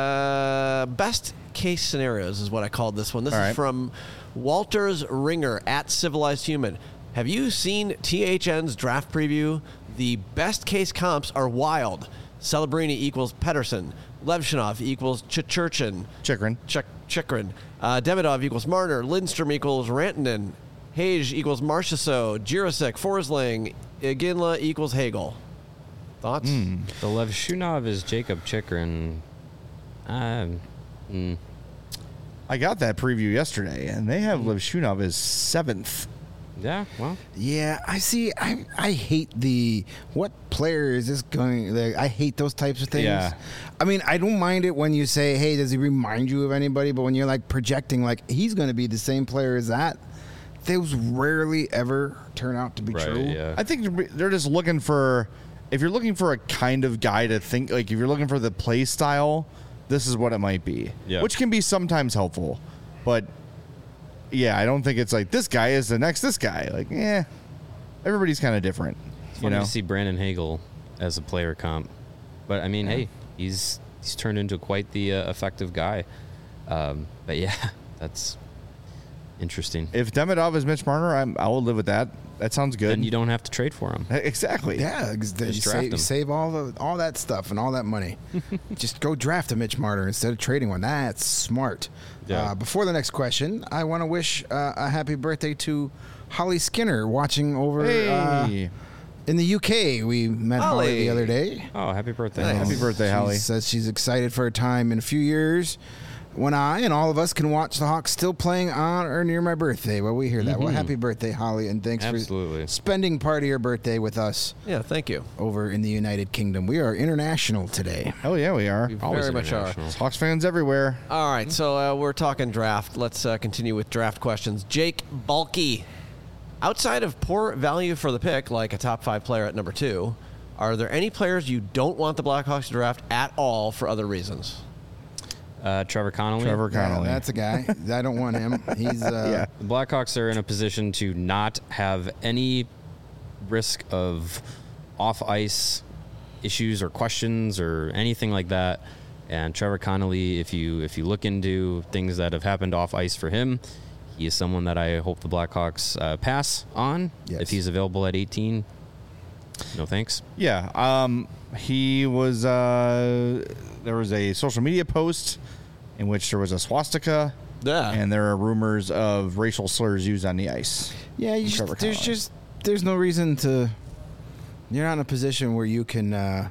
Uh, best case scenarios is what I called this one. This All is right. from Walter's Ringer at Civilized Human. Have you seen T H N's draft preview? The best case comps are wild. Celebrini equals Pedersen. Levshinov equals Chichurchin. Chikrin. Chik- Chikrin. Uh, Demidov equals Marner. Lindstrom equals Rantanen. Hage equals Marchessault. Jirasek, Forsling. Iginla equals Hagel. Thoughts? The Levshunov is Jacob Chikrin. Um, mm, I got that preview yesterday, and they have Liv Shunov as seventh. yeah, well, Yeah, I see. I I hate the what player is this going? Like, I hate those types of things. Yeah. I mean, I don't mind it when you say, "Hey, does he remind you of anybody?" But when you're like projecting, like he's going to be the same player as that, those rarely ever turn out to be right, true. yeah. I think they're- they're just looking for, if you're looking for a kind of guy to think, like if you're looking for the play style, this is what it might be. Yeah. Which can be sometimes helpful. But yeah, I don't think it's like this guy is the next this guy. Like, yeah, everybody's kind of different. It's You funny know? to see Brandon Hagel as a player comp, but I mean, hey, he's he's turned into quite the uh, effective guy. Um, but yeah, that's interesting. If Demidov is Mitch Marner, I'm, I will live with that. That sounds good. And you don't have to trade for him. Exactly. Yeah, ex- you Just draft save, him. save all the all that stuff and all that money. Just go draft a Mitch Marner instead of trading one. That's smart. Yeah. Uh, before the next question, I want to wish uh, a happy birthday to Holly Skinner watching over uh, Hey. In the U K, we met Holly, Holly. the other day. Oh, happy birthday. Nice. Happy birthday, She Holly. says she's excited for a time in a few years when I and all of us can watch the Hawks still playing on or near my birthday. Well, we hear that. Well, happy birthday, Holly, and thanks Absolutely. for spending part of your birthday with us Yeah, thank you. over in the United Kingdom. We are international today. Oh yeah, we are. We Always very much are. international. Hawks fans everywhere. All right, so uh, we're talking draft. Let's uh, continue with draft questions. Jake Balky. Outside of poor value for the pick, like a top five player at number two, are there any players you don't want the Blackhawks to draft at all for other reasons? Uh, Trevor Connolly. Trevor Yeah, Connolly. that's a guy. I don't want him. He's uh, Yeah. The Blackhawks are in a position to not have any risk of off-ice issues or questions or anything like that. And Trevor Connolly, if you if you look into things that have happened off ice for him, he is someone that I hope the Blackhawks uh, pass on Yes. if he's available at eighteen. No thanks. Yeah. Um, he was. Uh, there was a social media post in which there was a swastika, Yeah. and there are rumors of racial slurs used on the ice. Yeah, you Trevor just, there's Connolly. just there's no reason to. You're not in a position where you can uh,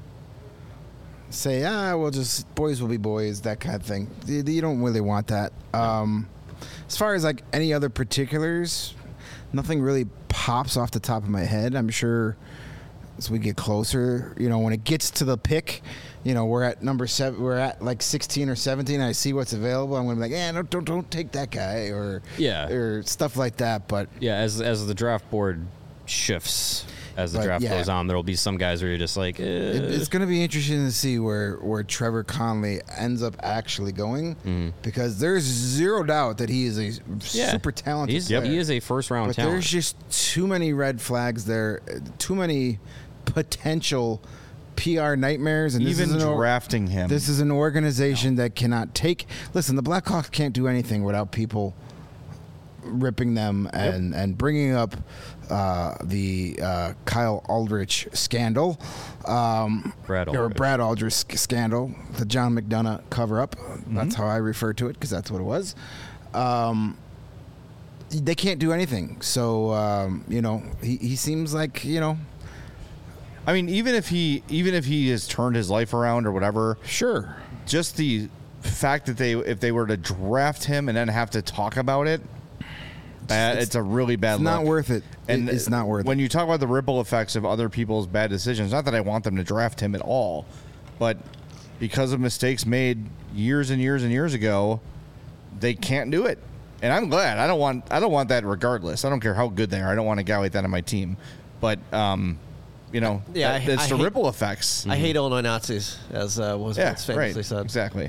say, ah, well, just boys will be boys, that kind of thing. You, you don't really want that. Um, as far as like any other particulars, nothing really pops off the top of my head. I'm sure as we get closer, you know, when it gets to the pick, you know, we're at number seven, we're at like sixteen or seventeen. I see what's available. I'm going to be like, eh, don't, don't, don't take that guy or, Yeah. or stuff like that. But Yeah, as as the draft board shifts as the But, draft yeah. goes on, there will be some guys where you're just like, eh. It, it's going to be interesting to see where, where Trevor Connolly ends up actually going because there's zero doubt that he is a Yeah. super talented He's, player. he is a first round but talent. there's just too many red flags there, uh, too many potential P R nightmares. And this Even is an or- drafting him. This is an organization that cannot take. Listen, the Blackhawks can't do anything without people ripping them and, and bringing up uh, the uh, Kyle Aldrich scandal. Um, Brad or Aldrich. Brad Aldrich sc- scandal, the John McDonough cover up. That's how I refer to it because that's what it was. Um, they can't do anything. So, um, you know, he, he seems like, you know, I mean, even if he even if he has turned his life around or whatever, sure. just the fact that they if they were to draft him and then have to talk about it, bad. It's, a really bad. It's not look. worth it. And It- it's not worth when it. you talk about the ripple effects of other people's bad decisions, not that I want them to draft him at all, but because of mistakes made years and years and years ago, they can't do it. And I'm glad. I don't want I don't want that regardless. I don't care how good they are. I don't want a guy like that on my team. But um, you know, Yeah, that- I- it's I the hate- ripple effects. I hate Illinois Nazis, as uh, was yeah, once famously right. said. Exactly.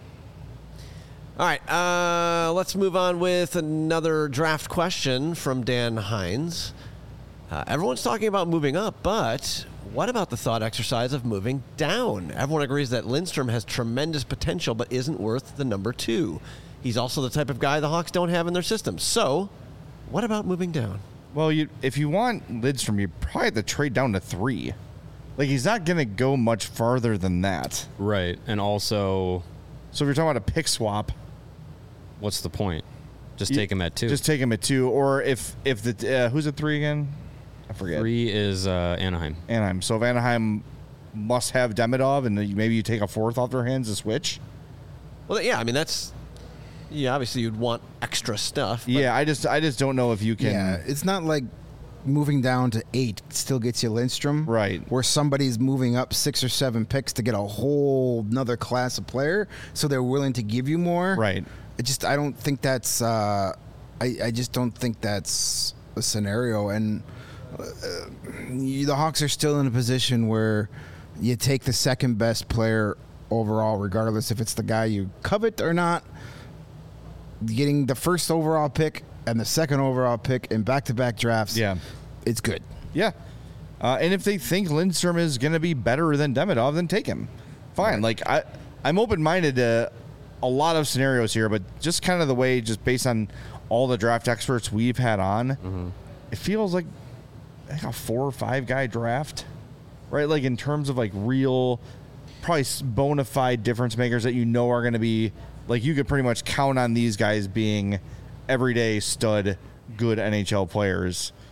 All right, uh, let's move on with another draft question from Dan Hines. Uh, everyone's talking about moving up, but what about the thought exercise of moving down? Everyone agrees that Lindstrom has tremendous potential, but isn't worth the number two. He's also the type of guy the Hawks don't have in their system. So, what about moving down? Well, you if you want Lidstrom, you probably have to trade down to three. Like he's not going to go much farther than that. Right. And also, So if you're talking about a pick swap, what's the point? Just you- take him at two. Just take him at two, or if if the uh, who's at three again? I forget. Three is uh, Anaheim. Anaheim. So if Anaheim must have Demidov, and then maybe you take a fourth off their hands to switch. Well, yeah, I mean, that's. Yeah, obviously you'd want extra stuff. but- Yeah, I just I just don't know if you can. Yeah, it's not like moving down to eight still gets you Lindstrom. Right. Where somebody's moving up six or seven picks to get a whole another class of player, so they're willing to give you more. Right. It just I don't think that's uh, I, I just don't think that's a scenario. And uh, you, the Hawks are still in a position where you take the second best player overall, regardless if it's the guy you covet or not. Getting the first overall pick and the second overall pick in back-to-back drafts, Yeah. it's good. Yeah. Uh, and if they think Lindstrom is going to be better than Demidov, then take him. Fine. Like I, I'm open-minded to a lot of scenarios here, but just kind of the way, just based on all the draft experts we've had on, Mm-hmm. it feels like, like a four or five guy draft, right? Like in terms of like real, probably bona fide difference makers that you know are going to be like you could pretty much count on these guys being everyday stud, good N H L players.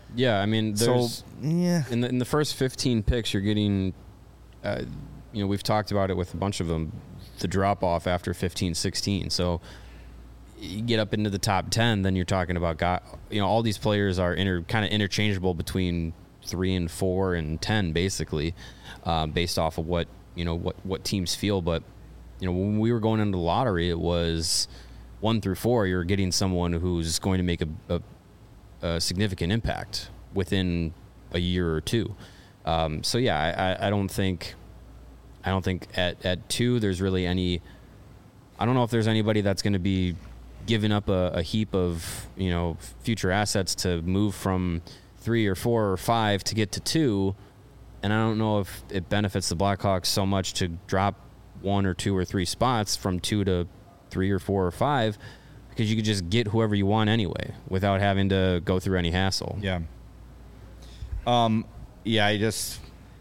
Yeah, I mean, So there's yeah, in the in the first fifteen picks, you're getting, uh, you know, we've talked about it with a bunch of them, the drop off after fifteen, sixteen. So you get up into the top ten, then you're talking about, got, you know, all these players are inter, kind of interchangeable between three and four and ten, basically, uh, based off of what, you know, what, what teams feel. But, you know, when we were going into the lottery, it was one through four, you're getting someone who's going to make a, a, a significant impact within a year or two. Um, so yeah, I, I, I don't think, I don't think at, at two, there's really any, I don't know if there's anybody that's going to be giving up a, a heap of, you know, future assets to move from three or four or five to get to two. And I don't know if it benefits the Blackhawks so much to drop one or two or three spots from two to three or four or five, because you could just get whoever you want anyway without having to go through any hassle. yeah. Um, yeah, I just,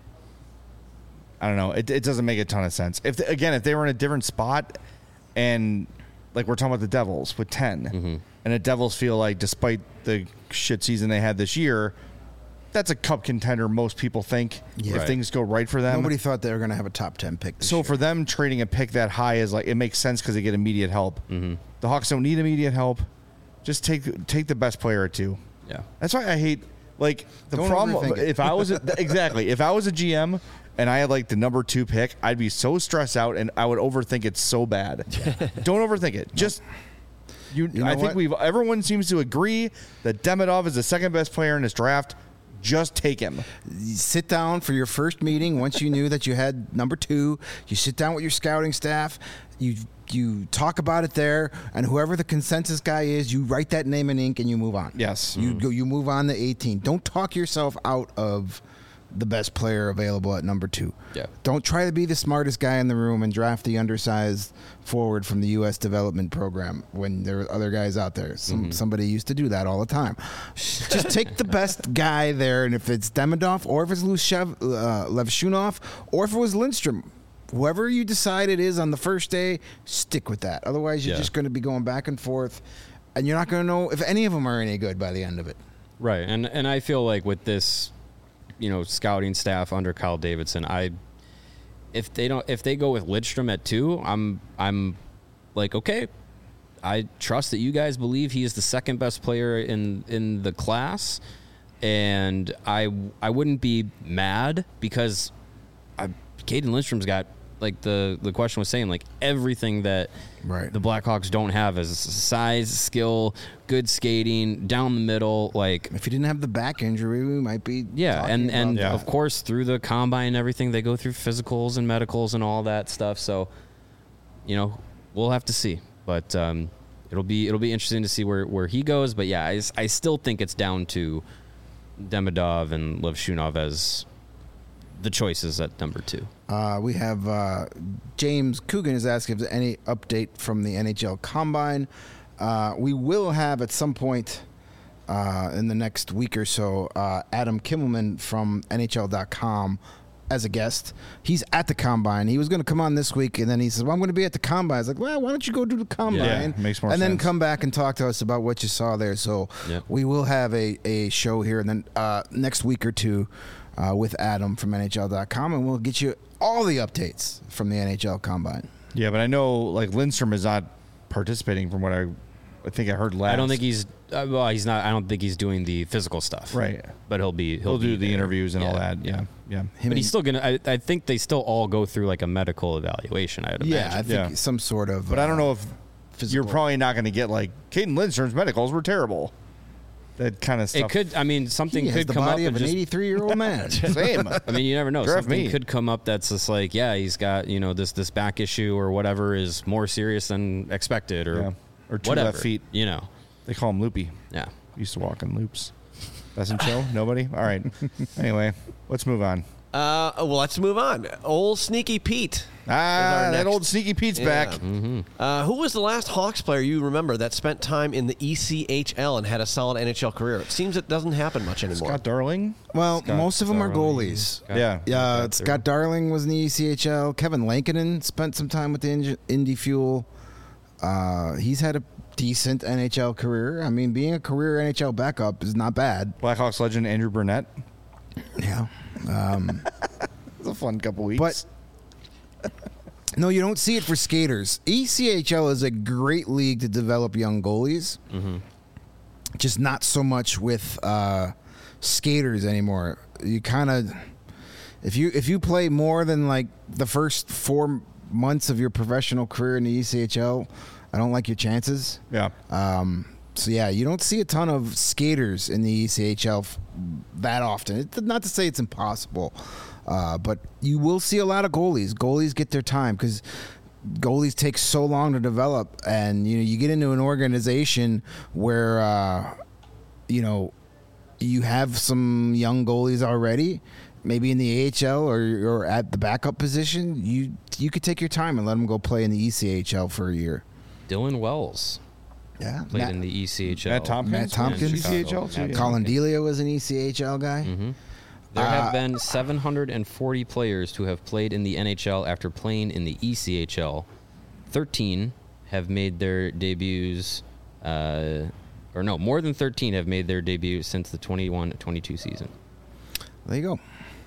I don't know. It, it doesn't make a ton of sense. If they, again, if they were in a different spot, and like we're talking about the Devils with ten, Mm-hmm. and the Devils feel like, despite the shit season they had this year, that's a cup contender. Most people think Yeah. if Right. things go right for them. Nobody thought they were going to have a top ten pick this So year. for them, trading a pick that high is like, it makes sense because they get immediate help. Mm-hmm. The Hawks don't need immediate help. Just take take the best player or two. Yeah. That's why I hate, like, the Don't problem. overthink it. If I was a, exactly, if I was a G M and I had like the number two pick, I'd be so stressed out and I would overthink it so bad. Don't overthink it. Just you. You know I think what? we've everyone seems to agree that Demidov is the second best player in this draft. Just take him. You sit down for your first meeting once you knew that you had number two. You sit down with your scouting staff. You you talk about it there, and whoever the consensus guy is, you write that name in ink and you move on. Yes. You go. You move on to eighteen. Don't talk yourself out of the best player available at number two. Yeah. Don't try to be the smartest guy in the room and draft the undersized forward from the U S development program when there are other guys out there. Some, Mm-hmm. Somebody used to do that all the time. Just take the best guy there, and if it's Demidov or if it's Lushev, uh, Levshunov or if it was Lindstrom, whoever you decide it is on the first day, stick with that. Otherwise, you're Yeah. just going to be going back and forth, and you're not going to know if any of them are any good by the end of it. Right. And and I feel like with this, you know, scouting staff under Kyle Davidson, I if they don't if they go with Lidstrom at two, I'm I'm like, okay, I trust that you guys believe he is the second best player in in the class, and I I wouldn't be mad because I Caden Lindstrom's got, like the the question was saying, like everything that Right. the Blackhawks don't have is size, skill, good skating, down the middle, like If you didn't have the back injury, we might be yeah, talking and about and Yeah. of course through the combine and everything, they go through physicals and medicals and all that stuff. So, you know, we'll have to see, but um, it'll be it'll be interesting to see where, where he goes. But yeah, I, I still think it's down to Demidov and Levshunov as the choices at number two. Uh, we have uh, James Coogan is asking if there's any update from the N H L Combine. Uh, we will have at some point uh, in the next week or so uh, Adam Kimmelman from N H L dot com as a guest. He's at the Combine. He was going to come on this week, and then he says, well, I'm going to be at the Combine. I was like, well, why don't you go do the Combine? Yeah, makes more and then sense. come back and talk to us about what you saw there. So Yep. we will have a, a show here and then uh, next week or two uh, with Adam from N H L dot com, and we'll get you all the updates from the N H L Combine. Yeah, but I know like Lindstrom is not participating from what I, I think I heard last. I don't think he's uh, well. He's not. I don't think he's doing the physical stuff. Right. But he'll be. He'll, he'll do be the there. interviews and all Yeah, that. Yeah, yeah. Him But and- he's still gonna. I, I think they still all go through like a medical evaluation. I'd yeah, I imagine. think Yeah. some sort of. But I don't uh, know if physical. you're probably not going to get like Caden Lindstrom's medicals were terrible. That kind of stuff. It could. I mean, something He has could the come up body and of an just. eighty-three-year-old man. Same. I mean, you never know. Draft Something me. could come up that's just like, yeah, he's got, you know, this this back issue or whatever is more serious than expected, or Yeah. Or two whatever, left feet. You know. They call him loopy. Yeah. Used to walk in loops. Doesn't show? Nobody? All right. Anyway, let's move on. Uh, well, let's move on. Old Sneaky Pete. Ah, our that next- old Sneaky Pete's Yeah. back. Uh, who was the last Hawks player you remember that spent time in the E C H L and had a solid N H L career? It seems it doesn't happen much anymore. Scott Darling? Well, Scott most of them are Darling. goalies. Scott- Yeah. Yeah, Scott Scott Darling was in the E C H L. Kevin Lankinen spent some time with the Indy- Indy Fuel. Uh, he's had a decent N H L career. I mean, being a career N H L backup is not bad. Blackhawks legend Andrew Burnett. Yeah. Um, It was a fun couple weeks. But no, you don't see it for skaters. E C H L is a great league to develop young goalies. Mm-hmm. Just not so much with uh, skaters anymore. You kind of, if you if you play more than like the first four months of your professional career in the E C H L, I don't like your chances. yeah. Um, so yeah, you don't see a ton of skaters in the E C H L f- that often. It's not to say it's impossible, uh, but you will see a lot of goalies. Goalies get their time because goalies take so long to develop, and you know you get into an organization where uh, you know you have some young goalies already. Maybe in the A H L or, or at the backup position, you you could take your time and let them go play in the E C H L for a year. Dylan Wells Yeah, played Matt- in the E C H L. Matt Tompkins. Matt Tompkins. E C H L too. Matt Yeah. Colin Delia was an E C H L guy. Mm-hmm. There Uh, have been seven hundred forty players who have played in the N H L after playing in the E C H L. thirteen have made their debuts, uh, or no, more than thirteen have made their debut since the twenty-one twenty-two season. There you go.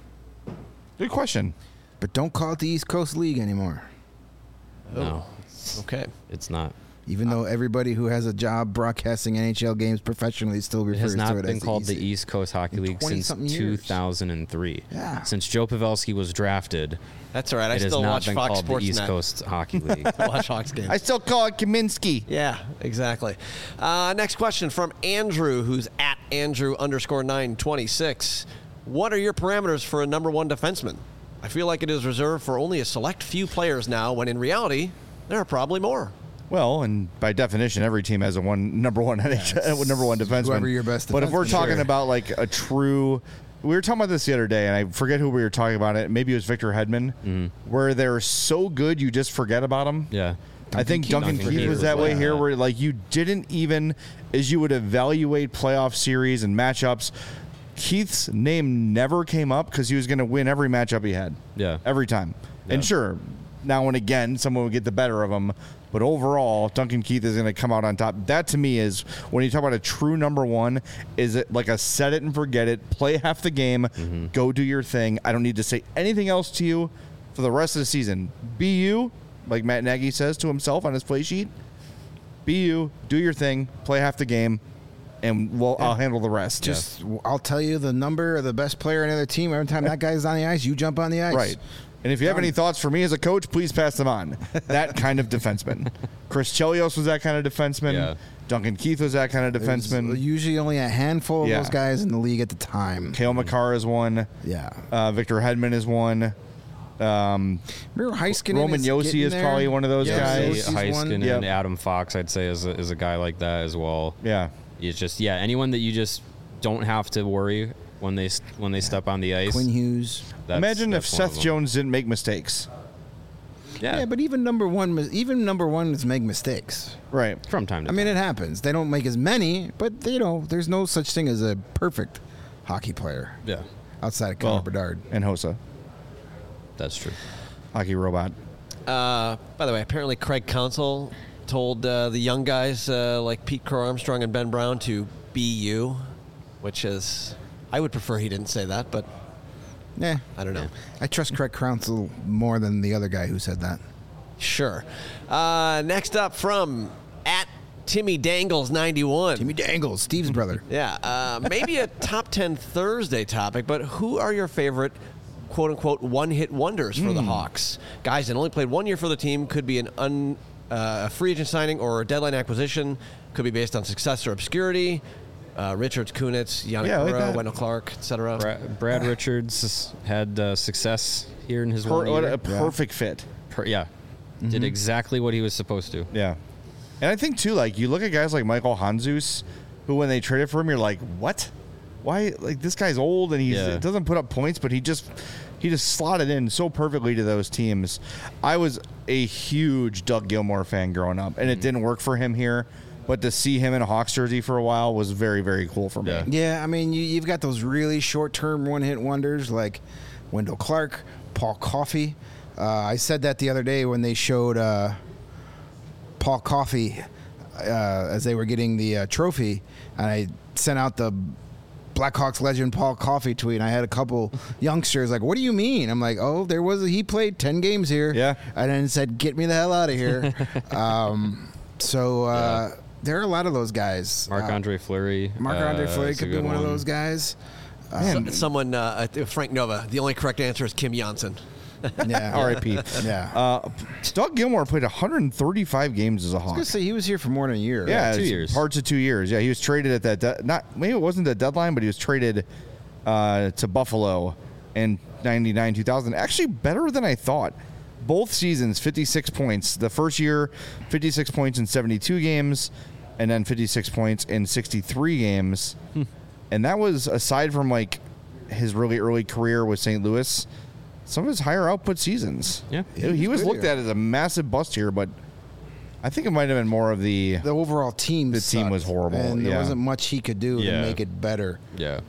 Good question. But don't call it the East Coast League anymore. No, Okay. it's not. Even though everybody who has a job broadcasting N H L games professionally still It refers has not to it been as called the the E C. East Coast Hockey in League since twenty-something two years. thousand three. Yeah. Since Joe Pavelski was drafted, That's all right. I it has still not watch been Fox called Sports the East Net. Coast Hockey League. Watch Hawks games. I still call it Kaminsky. Yeah, exactly. Uh, next question from Andrew, who's at Andrew underscore nine twenty six. What are your parameters for a number one defenseman? I feel like it is reserved for only a select few players now, when in reality, there are probably more. Well, and by definition, every team has a one number one N H L, number one defenseman. whoever your best But if we're defenseman. talking Sure. about like a true, we were talking about this the other day, and I forget who we were talking about it. Maybe it was Victor Hedman, where they're so good you just forget about them. yeah. I think Keith. Duncan, Duncan Keith Keith was was that way like here, that. where like you didn't even, as you would evaluate playoff series and matchups, Keith's name never came up because he was going to win every matchup he had. Yeah. Every time. Yeah. And sure, now and again, someone would get the better of him. But overall, Duncan Keith is going to come out on top. That to me is, when you talk about a true number one, is it like a set it and forget it, play half the game, Mm-hmm. go do your thing. I don't need to say anything else to you for the rest of the season. Be you, like Matt Nagy says to himself on his play sheet. Be you, do your thing, play half the game, and we'll, I'll handle the rest. Just, I'll tell you the number of the best player on the other team. Every time that guy's on the ice, you jump on the ice. Right. And if you have Done. any thoughts for me as a coach, please pass them on. That kind of defenseman. Chris Chelios was that kind of defenseman. Yeah. Duncan Keith was that kind of There's defenseman. usually only a handful of Yeah. those guys in the league at the time. Kale McCarr is one. Yeah. Uh, Victor Hedman is one. Um, Remember Heiskanen Roman is Yossi getting is there? probably one of those Yeah, guys. Yossi's one. Heiskanen Yep. and Adam Fox, I'd say, is a, is a guy like that as well. yeah. It's just, yeah, anyone that you just don't have to worry when they s- when they step on the ice. Quinn Hughes. that's- Imagine if that's one of Seth them. Jones didn't make mistakes. Yeah, Yeah, but even number one, mis- even number ones make mistakes. Right. from time to I mean, time. it happens. They don't make as many, but you know, there's no such thing as a perfect hockey player Yeah, outside of Connor Well, Bedard. and Hossa. that's true. Hockey robot. Uh, by the way, apparently Craig Counsell told uh, the young guys uh, like Pete Crow Armstrong and Ben Brown to be you, which is, I would prefer he didn't say that, but Yeah, I don't know. I trust Craig Counsell more than the other guy who said that. Sure. Uh, next up from at Timmy Dangles ninety-one. Timmy Dangles, Steve's brother. Yeah, uh, maybe a top ten Thursday topic, but who are your favorite quote unquote one hit wonders for the Hawks? Guys that only played one year for the team, could be an un, uh, a free agent signing or a deadline acquisition, could be based on success or obscurity. Uh, Richards, Kunitz, Yannick Yeah, I like Guerrero, that. Wendell Clark, et cetera. Brad, Brad Richards had uh, success here in his Per- one what year. a perfect fit. Per- yeah, did exactly what he was supposed to. Yeah. And I think, too, like, you look at guys like Michael Hanzus, who, when they traded for him, you're like, what? Why? Like, this guy's old and he Yeah. doesn't put up points, but he just he just slotted in so perfectly to those teams. I was a huge Doug Gilmour fan growing up, and it didn't work for him here. But to see him in a Hawks jersey for a while was very, very cool for me. Yeah. Yeah, I mean, you, you've got those really short-term one-hit wonders like Wendell Clark, Paul Coffey. Uh, I said that the other day when they showed uh, Paul Coffey uh, as they were getting the uh, trophy, and I sent out the Blackhawks legend Paul Coffey tweet, and I had a couple youngsters like, "What do you mean?" I'm like, "Oh, there was a, he played ten games here." Yeah. And then said, "Get me the hell out of here." um, so uh, Yeah. there are a lot of those guys. Marc Andre Fleury. Marc Andre uh, Fleury is a could be good one, of those guys. So- someone, uh, uh, Frank Nova. The only correct answer is Kim Janssen. Yeah. R I P Yeah. Uh, Doug Gilmore played one hundred thirty-five games as a I was Hawk. gonna say he was here for more than a year. Yeah, two it's years. Parts of two years. Yeah, he was traded at that. De- not maybe it wasn't the deadline, but he was traded uh, to Buffalo in ninety-nine two thousand. Actually, better than I thought. Both seasons, fifty-six points. The first year, fifty-six points in seventy-two games, and then fifty-six points in sixty-three games. And that was aside from like his really early career with Saint Louis. Some of his higher output seasons. Yeah. he, he was good looked here. at as a massive bust here, but I think it might have been more of the. The overall team. The team sucked, was horrible, and there yeah. wasn't much he could do Yeah. to make it better. Yeah.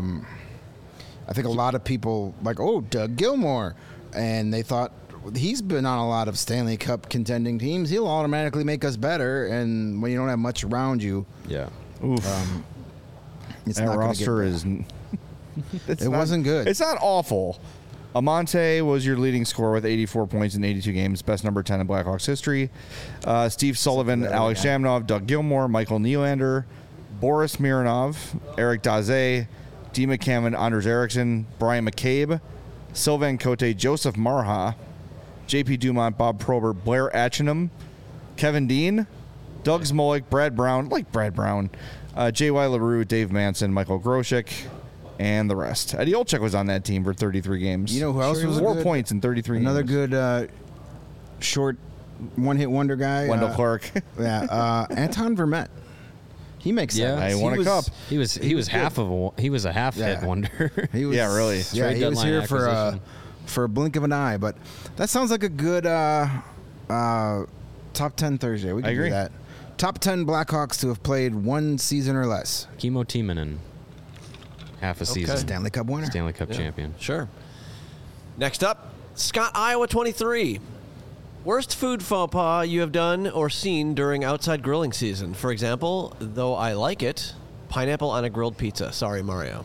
I think a lot of people like, oh, Doug Gilmore, and they thought he's been on a lot of Stanley Cup contending teams. He'll automatically make us better, and when you don't have much around you, yeah. Oof. it's that not gonna get roster better. is. n- it's It not- wasn't good. It's not awful. Amante was your leading scorer with eighty-four points in eighty-two games, best number ten in Blackhawks history. Uh, Steve Sullivan, That Alex other guy. Shamnov, Doug Gilmore, Michael Nylander, Boris Mironov, Eric Daze, D. McCammon, Anders Eriksson, Brian McCabe, Sylvain Cote, Joseph Marha, J P Dumont, Bob Probert, Blair Atchinham, Kevin Dean, Doug Smolik, Brad Brown, like Brad Brown, uh, J Y. LaRue, Dave Manson, Michael Grosek, and the rest. Eddie Olczyk was on that team for thirty-three games. You know who else was Four good? points in thirty-three Another games. good uh, short one-hit wonder guy. Wendell uh, Clark. Yeah, uh, Anton Vermette. He makes Yeah. sense. He won a was, cup. He was he, He was, was half of a he was a half hit Yeah. wonder. He was, Yeah, really. Yeah, Trade he was deadline here for uh, acquisition. for a blink of an eye. But that sounds like a good uh, uh, top ten Thursday. We can I agree. do that. Top ten Blackhawks to have played one season or less. Kimmo Timonen, half a season. Stanley Cup winner. Stanley Cup Yeah, champion. Sure. Next up, Scott, Iowa twenty-three. Worst food faux pas you have done or seen during outside grilling season. For example, though I like it, pineapple on a grilled pizza. Sorry, Mario.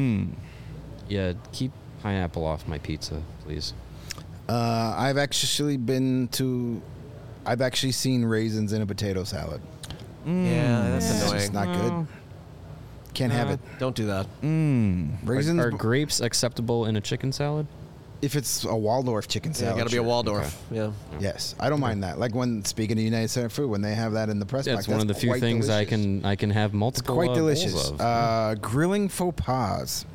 Yeah, keep pineapple off my pizza, please. Uh, I've actually been to. I've actually seen raisins in a potato salad. Yeah, that's It's annoying. just not good. Can't have it. Don't do that. Raisins. Are, are grapes acceptable in a chicken salad? if it's a Waldorf chicken Yeah, salad, got to be a sure. Waldorf. Yeah. Yes, I don't mind that. Like when speaking of United Center food, when they have that in the press Yeah, box, it's one of the that's few quite things I delicious. can I can have multiple Quite uh, bowls delicious. of. Uh, grilling faux pas.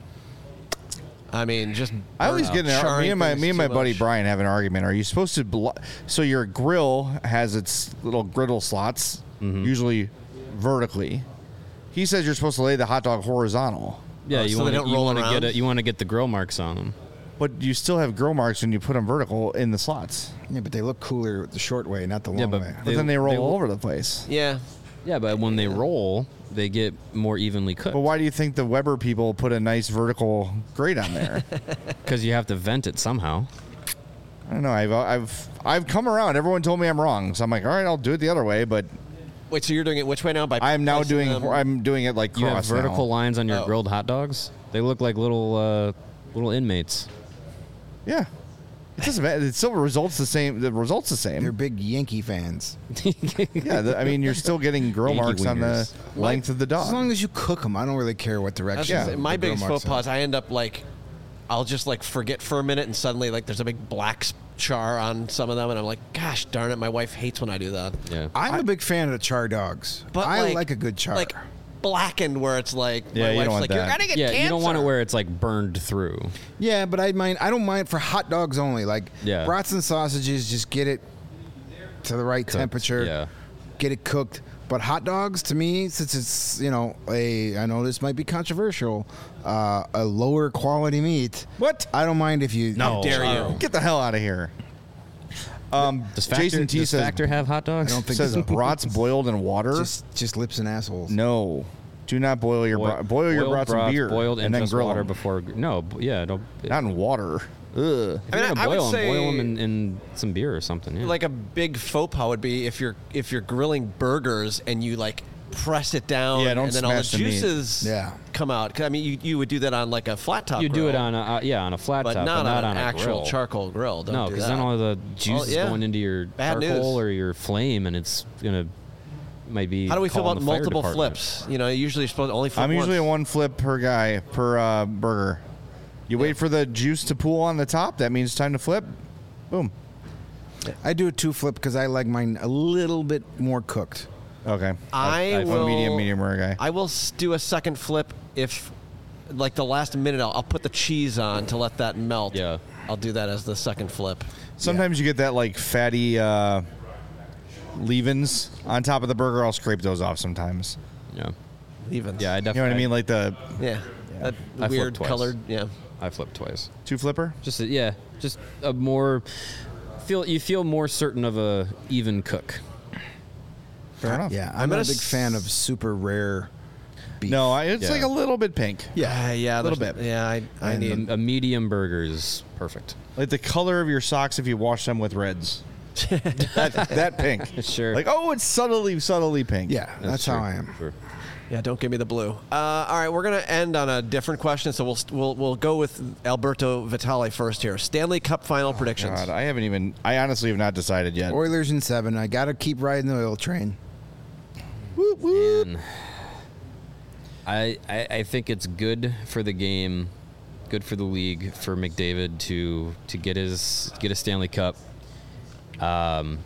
I mean, just I always get in an, charring me and my things me and my too buddy much. Brian have an argument. Are you supposed to? Blo- so your grill has its little griddle slots, Mm-hmm. usually vertically. He says you're supposed to lay the hot dog horizontal, yeah, Oh, you so they want don't you roll want to around? get it. You want to get the grill marks on them. but you still have grill marks when you put them vertical in the slots. Yeah, but they look cooler the short way, not the long Yeah, but way. But then they roll all over the place. Yeah. Yeah, but when they roll, they get more evenly cooked. But why do you think the Weber people put a nice vertical grate on there? Because you have to vent it somehow. I don't know. I've I've I've come around. Everyone told me I'm wrong, so I'm like, all right, I'll do it the other way. But Wait, so you're doing it which way now? By I'm now placing doing them- I'm doing it like You have cross vertical now. lines on your Oh. grilled hot dogs. They look like little uh, little inmates. Yeah, it doesn't matter. It still results the same. The results the They're same. big Yankee fans. Yeah, the, I mean, you're still getting grill Yankee marks on the wingers. length of the As long dog. as you cook them, I don't really care what I was direction. gonna Yeah. say, my the grill biggest marks faux are. pas, I end up like, I'll just like forget for a minute, and suddenly like there's a big black s- char on some of them, and I'm like, gosh darn it, my wife hates when I do that. Yeah. I'm a big fan of the char dogs. But I like, like, a good char. like blackened, where it's like, Yeah, my you wife's don't want like, you're that. gonna get Yeah, cancer. you don't want it where it's like burned through. yeah, but I mind. I don't mind for hot dogs only. Like Yeah. brats and sausages, just get it to the right Cooked, temperature. yeah. Get it cooked. But hot dogs, to me, since it's you know a, I know this might be controversial, uh, a lower quality meat. What? I don't mind if you. How dare you? Get the hell out of here. Um, Does Factor, Jason T does says Factor have hot dogs? I don't think says so. brats boiled in water. Just just lips and assholes. no, Do not boil your Boil- broth. Boil your boiled broth in broth, beer boiled in and then just grill water 'em. before. No, b- yeah, don't. Not in water. Ugh. If I mean, you're gonna I would boil them, say- boil them in, in some beer or something. Yeah. Like a big faux pas would be if you're if you're grilling burgers and you like press it down Yeah, don't and then all the smash the meat. juices Yeah. come out. 'Cause, I mean, you, you would do that on like a flat top. you do grill, it on a uh, yeah on a flat but top, not, but not on on an a actual grill. charcoal grill. Don't No, do because that. then all the juice is yeah. going into your Bad charcoal news. or your flame, and it's gonna might be. How do we feel calling about the fire multiple department. flips? You know, usually you're supposed to only flip I'm usually a once. one flip per guy per uh, burger. You wait for the juice to pool on the top. That means time to flip. Boom. I do a two flip because I like mine a little bit more cooked. Okay. I I'm will a medium, medium rare guy. I will s- do a second flip if, like the last minute, I'll, I'll put the cheese on to let that melt. Yeah. I'll do that as the second flip. Sometimes you get that like fatty uh, leavings on top of the burger. I'll scrape those off sometimes. Yeah, Even. yeah, I You know definitely. what I mean? Like the Yeah. That I flipped weird twice. colored. Yeah. I flipped twice. two flipper. Just a, yeah, just a more feel. You feel more certain of a even cook. Fair enough. Yeah, I'm I'm not gonna a big s- fan of super rare beef. No, I, it's Yeah. like a little bit pink. Yeah. Yeah. a little there's- bit. Yeah. I, I And need. A, a medium burger is perfect. Like the color of your socks if you wash them with reds. that, that pink. Sure. Like, oh, it's subtly, subtly pink. Yeah, that's, true. how I am. Sure. Yeah, don't give me the blue. Uh, all right, we're gonna end on a different question, so we'll we'll we'll go with Alberto Vitale first here. Stanley Cup final predictions. God, I haven't even. I honestly have not decided yet. Oilers in seven. I got to keep riding the oil train. And I, I I think it's good for the game, good for the league, for McDavid to to get his get a Stanley Cup. Um,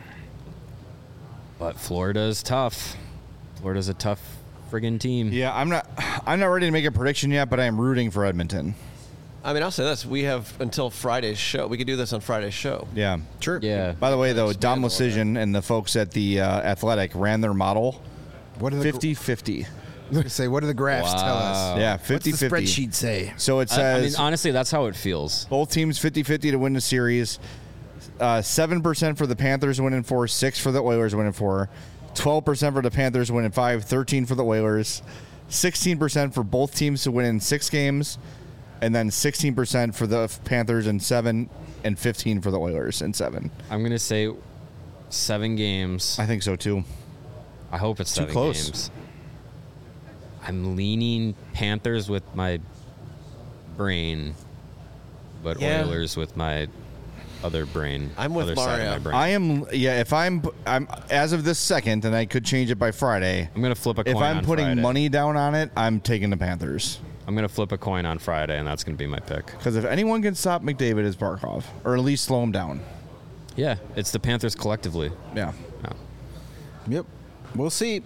but Florida's tough. Florida's a tough friggin' team. Yeah, I'm not. I'm not ready to make a prediction yet, but I am rooting for Edmonton. I mean, I'll say this: we have until Friday's show. We could do this on Friday's show. Yeah. Sure. Yeah. By the way, though, Dom Expand on Lucian and the folks at the uh, Athletic ran their model What are the fifty-fifty. say? What do the graphs tell us? Yeah, What's the fifty-fifty. spreadsheet say? So it I, I mean, says honestly, that's how it feels. both teams fifty-fifty to win the series. Uh, seven percent for the Panthers winning four, six for the Oilers winning four, twelve percent for the Panthers winning five, thirteen for the Oilers, sixteen percent for both teams to win in six games, and then sixteen percent for the Panthers in seven, and fifteen for the Oilers in seven. I'm gonna say seven games. I think so too. I hope it's Too seven close. games. I'm leaning Panthers with my brain, but Yeah. Oilers with my other brain. I'm with other side of Mario. my brain. I am, yeah. If I'm, I'm as of this second, and I could change it by Friday. I'm gonna flip a coin If I'm on putting Friday. money down on it, I'm taking the Panthers. I'm gonna flip a coin on Friday, and that's gonna be my pick. Because if anyone can stop McDavid, it's Barkov, or at least slow him down. Yeah, it's the Panthers collectively. Yeah. Yeah. Yep. We'll see.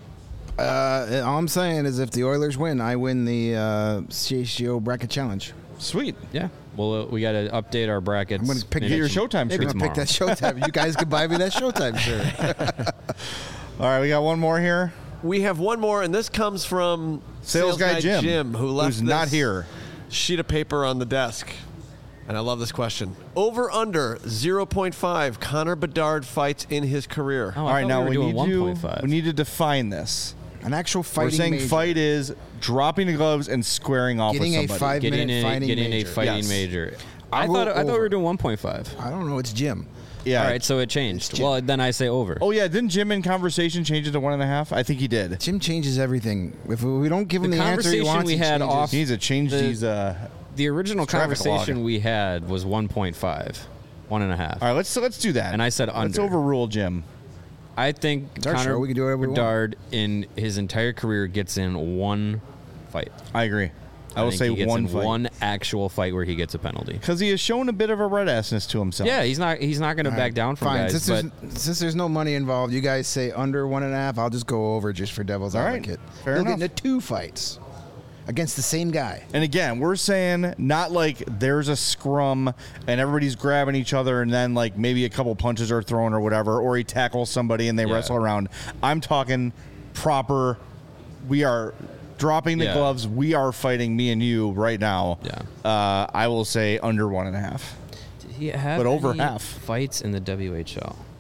Uh, all I'm saying is if the Oilers win, I win the uh, C H G O Bracket Challenge. Sweet. Yeah. Well, uh, we got to update our brackets. I'm gonna pick maybe your tom- Showtime maybe shirt. I'm going to pick tomorrow. that Showtime. You guys can buy me that Showtime shirt. All right, we got one more here. We have one more, and this comes from Sales, guy, Jim, who left who's not this here. sheet of paper on the desk. And I love this question. Over under zero point five Connor Bedard fights in his career. Oh, All I right, thought now we we, were need doing to one point five. we need to define this. An actual We're fighting saying major. fight is dropping the gloves and squaring off Getting a with somebody. five- getting minute a fighting getting major. a fighting Yes. major. I I'll thought go I thought we over. were doing one point five. I don't know. It's Jim. Yeah. All right, so it changed. Jim. Well, then I say over. Oh yeah, didn't Jim in conversation change it to one and a half? I think he did. Jim changes everything. If we don't give him The the, answer he conversation wants, we he had changes. off- He needs to change The- these. Uh, The original Traffic conversation log. we had was one point five, one and a half. all right, let's let's do that. And I said Let's under. overrule Jim. I think our Connor show. We can do whatever we want. Bedard in his entire career gets in one fight. I agree. I, will think say he gets one in fight. one actual fight where he gets a penalty. Because he has shown a bit of a red assness to himself. Yeah, he's not he's not going to All back right, down from Fine. guys. Since but there's, since there's no money involved, you guys say under one and a half. I'll just go over just for devil's All right. advocate. Fair He'll enough. get into two fights against the same guy. And again, we're saying not like there's a scrum and everybody's grabbing each other and then like maybe a couple punches are thrown or whatever, or he tackles somebody and they Yeah. wrestle around. I'm talking proper. We are dropping the Yeah. gloves. We are fighting, me and you, right now. Yeah. Uh, I will say under one and a half. did he have but over any half. fights in the W H L?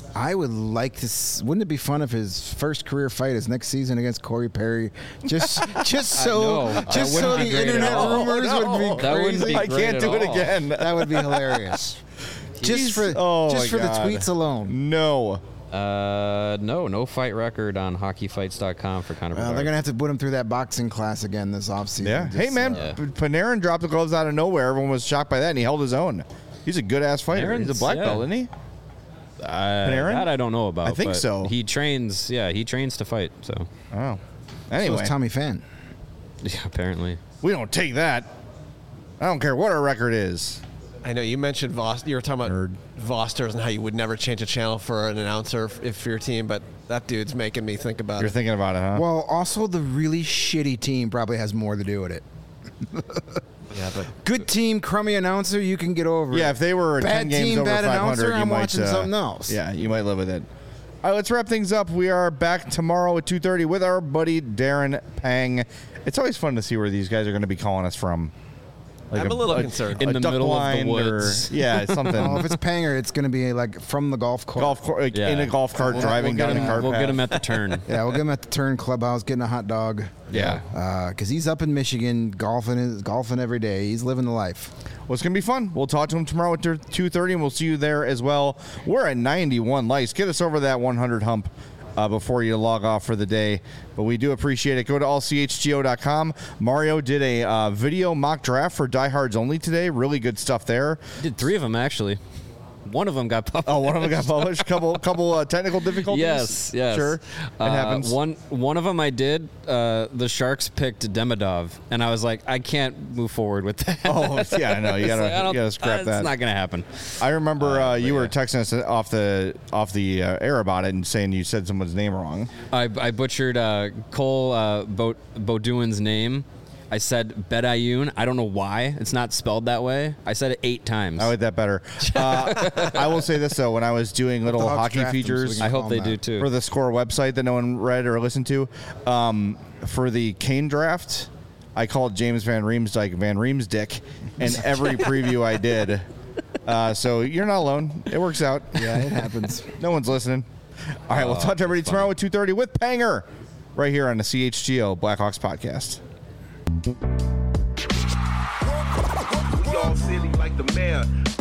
I would like to. s- Wouldn't it be fun if his first career fight is next season against Corey Perry? Just, just so, know. That just so wouldn't the be great at internet all. rumors Oh, no. would be That wouldn't crazy. be I great can't at do it all. again. That would be hilarious. just for, Oh, just my for the God. tweets alone. No. Uh, no, no fight record on hockey fights dot com for Conor Well, Bedard. they're gonna have to put him through that boxing class again this offseason. Yeah. Just, Hey, man, uh, Yeah. Panarin dropped the gloves out of nowhere. Everyone was shocked by that, and he held his own. He's a good ass fighter. He's a Panarin's- black yeah. belt, isn't he? Uh, Panarin? that I don't know about. I think but so. He trains. Yeah, he trains to fight. So, Oh. so Anyway, is Tommy Fan. yeah, apparently. we don't take that. I don't care what our record is. I know you mentioned Vos. You were talking about Vosters and how you would never change a channel for an announcer if, if for your team, but that dude's making me think about You're it. thinking about it, huh? Well, also the really shitty team probably has more to do with it. Yeah, but Good team, crummy announcer, you can get over yeah, it. if they were Bad ten games team, over bad five hundred, announcer, you I'm might watching uh, something else. Yeah, you might live with it. All right, let's wrap things up. We are back tomorrow at two thirty with our buddy Darren Pang. It's always fun to see where these guys are going to be calling us from. Like I'm a little concerned. In the duck middle of the blind woods. Or, yeah, something. Oh, if it's Panger, it's going to be like from the golf course. golf cart, like Yeah. in a golf cart We'll- driving we'll down get the him- cart We'll path. get him at the turn. Yeah, we'll get him at the Turn Clubhouse getting a hot dog. Yeah. Because he's up in Michigan golfing, his, golfing every day. He's living the life. Well, it's going to be fun. We'll talk to him tomorrow at two thirty, and we'll see you there as well. We're at ninety-one likes. Get us over that one hundred hump uh, before you log off for the day. But we do appreciate it. Go to all c h g o dot com. Mario did a uh, video mock draft for Diehards Only today. Really good stuff there. Did three of them actually. One of them got published. Oh, one of them got published. Couple, couple uh, technical difficulties. Yes, yes. Sure, it Uh, happens. One one of them I did. Uh, the Sharks picked Demidov, and I was like, I can't move forward with that. Oh, yeah, I know. You It's gotta, like, I you don't- gotta scrap uh, that. It's not gonna happen. I remember uh, you but were yeah. texting us off the off the uh, air about it and saying you said someone's name wrong. I, I butchered uh, Cole uh, Bo- Boduin's name. I said Bedayoun. I don't know why. It's not spelled that way. I said it eight times. I like that better. Uh, I will say this though: when I was doing little Hawks hockey draft him so we features can I call hope him they do that. too. for the Score website that no one read or listened to, um, for the Kane draft, I called James Van Riemsdyk Van Riemsdyk in every preview I did. Uh, so you're not alone. It works out. Yeah, it happens. No one's listening. All right, we'll talk to everybody tomorrow at two thirty with Panger, right here on the C H G O Blackhawks podcast. We all silly like the mayor.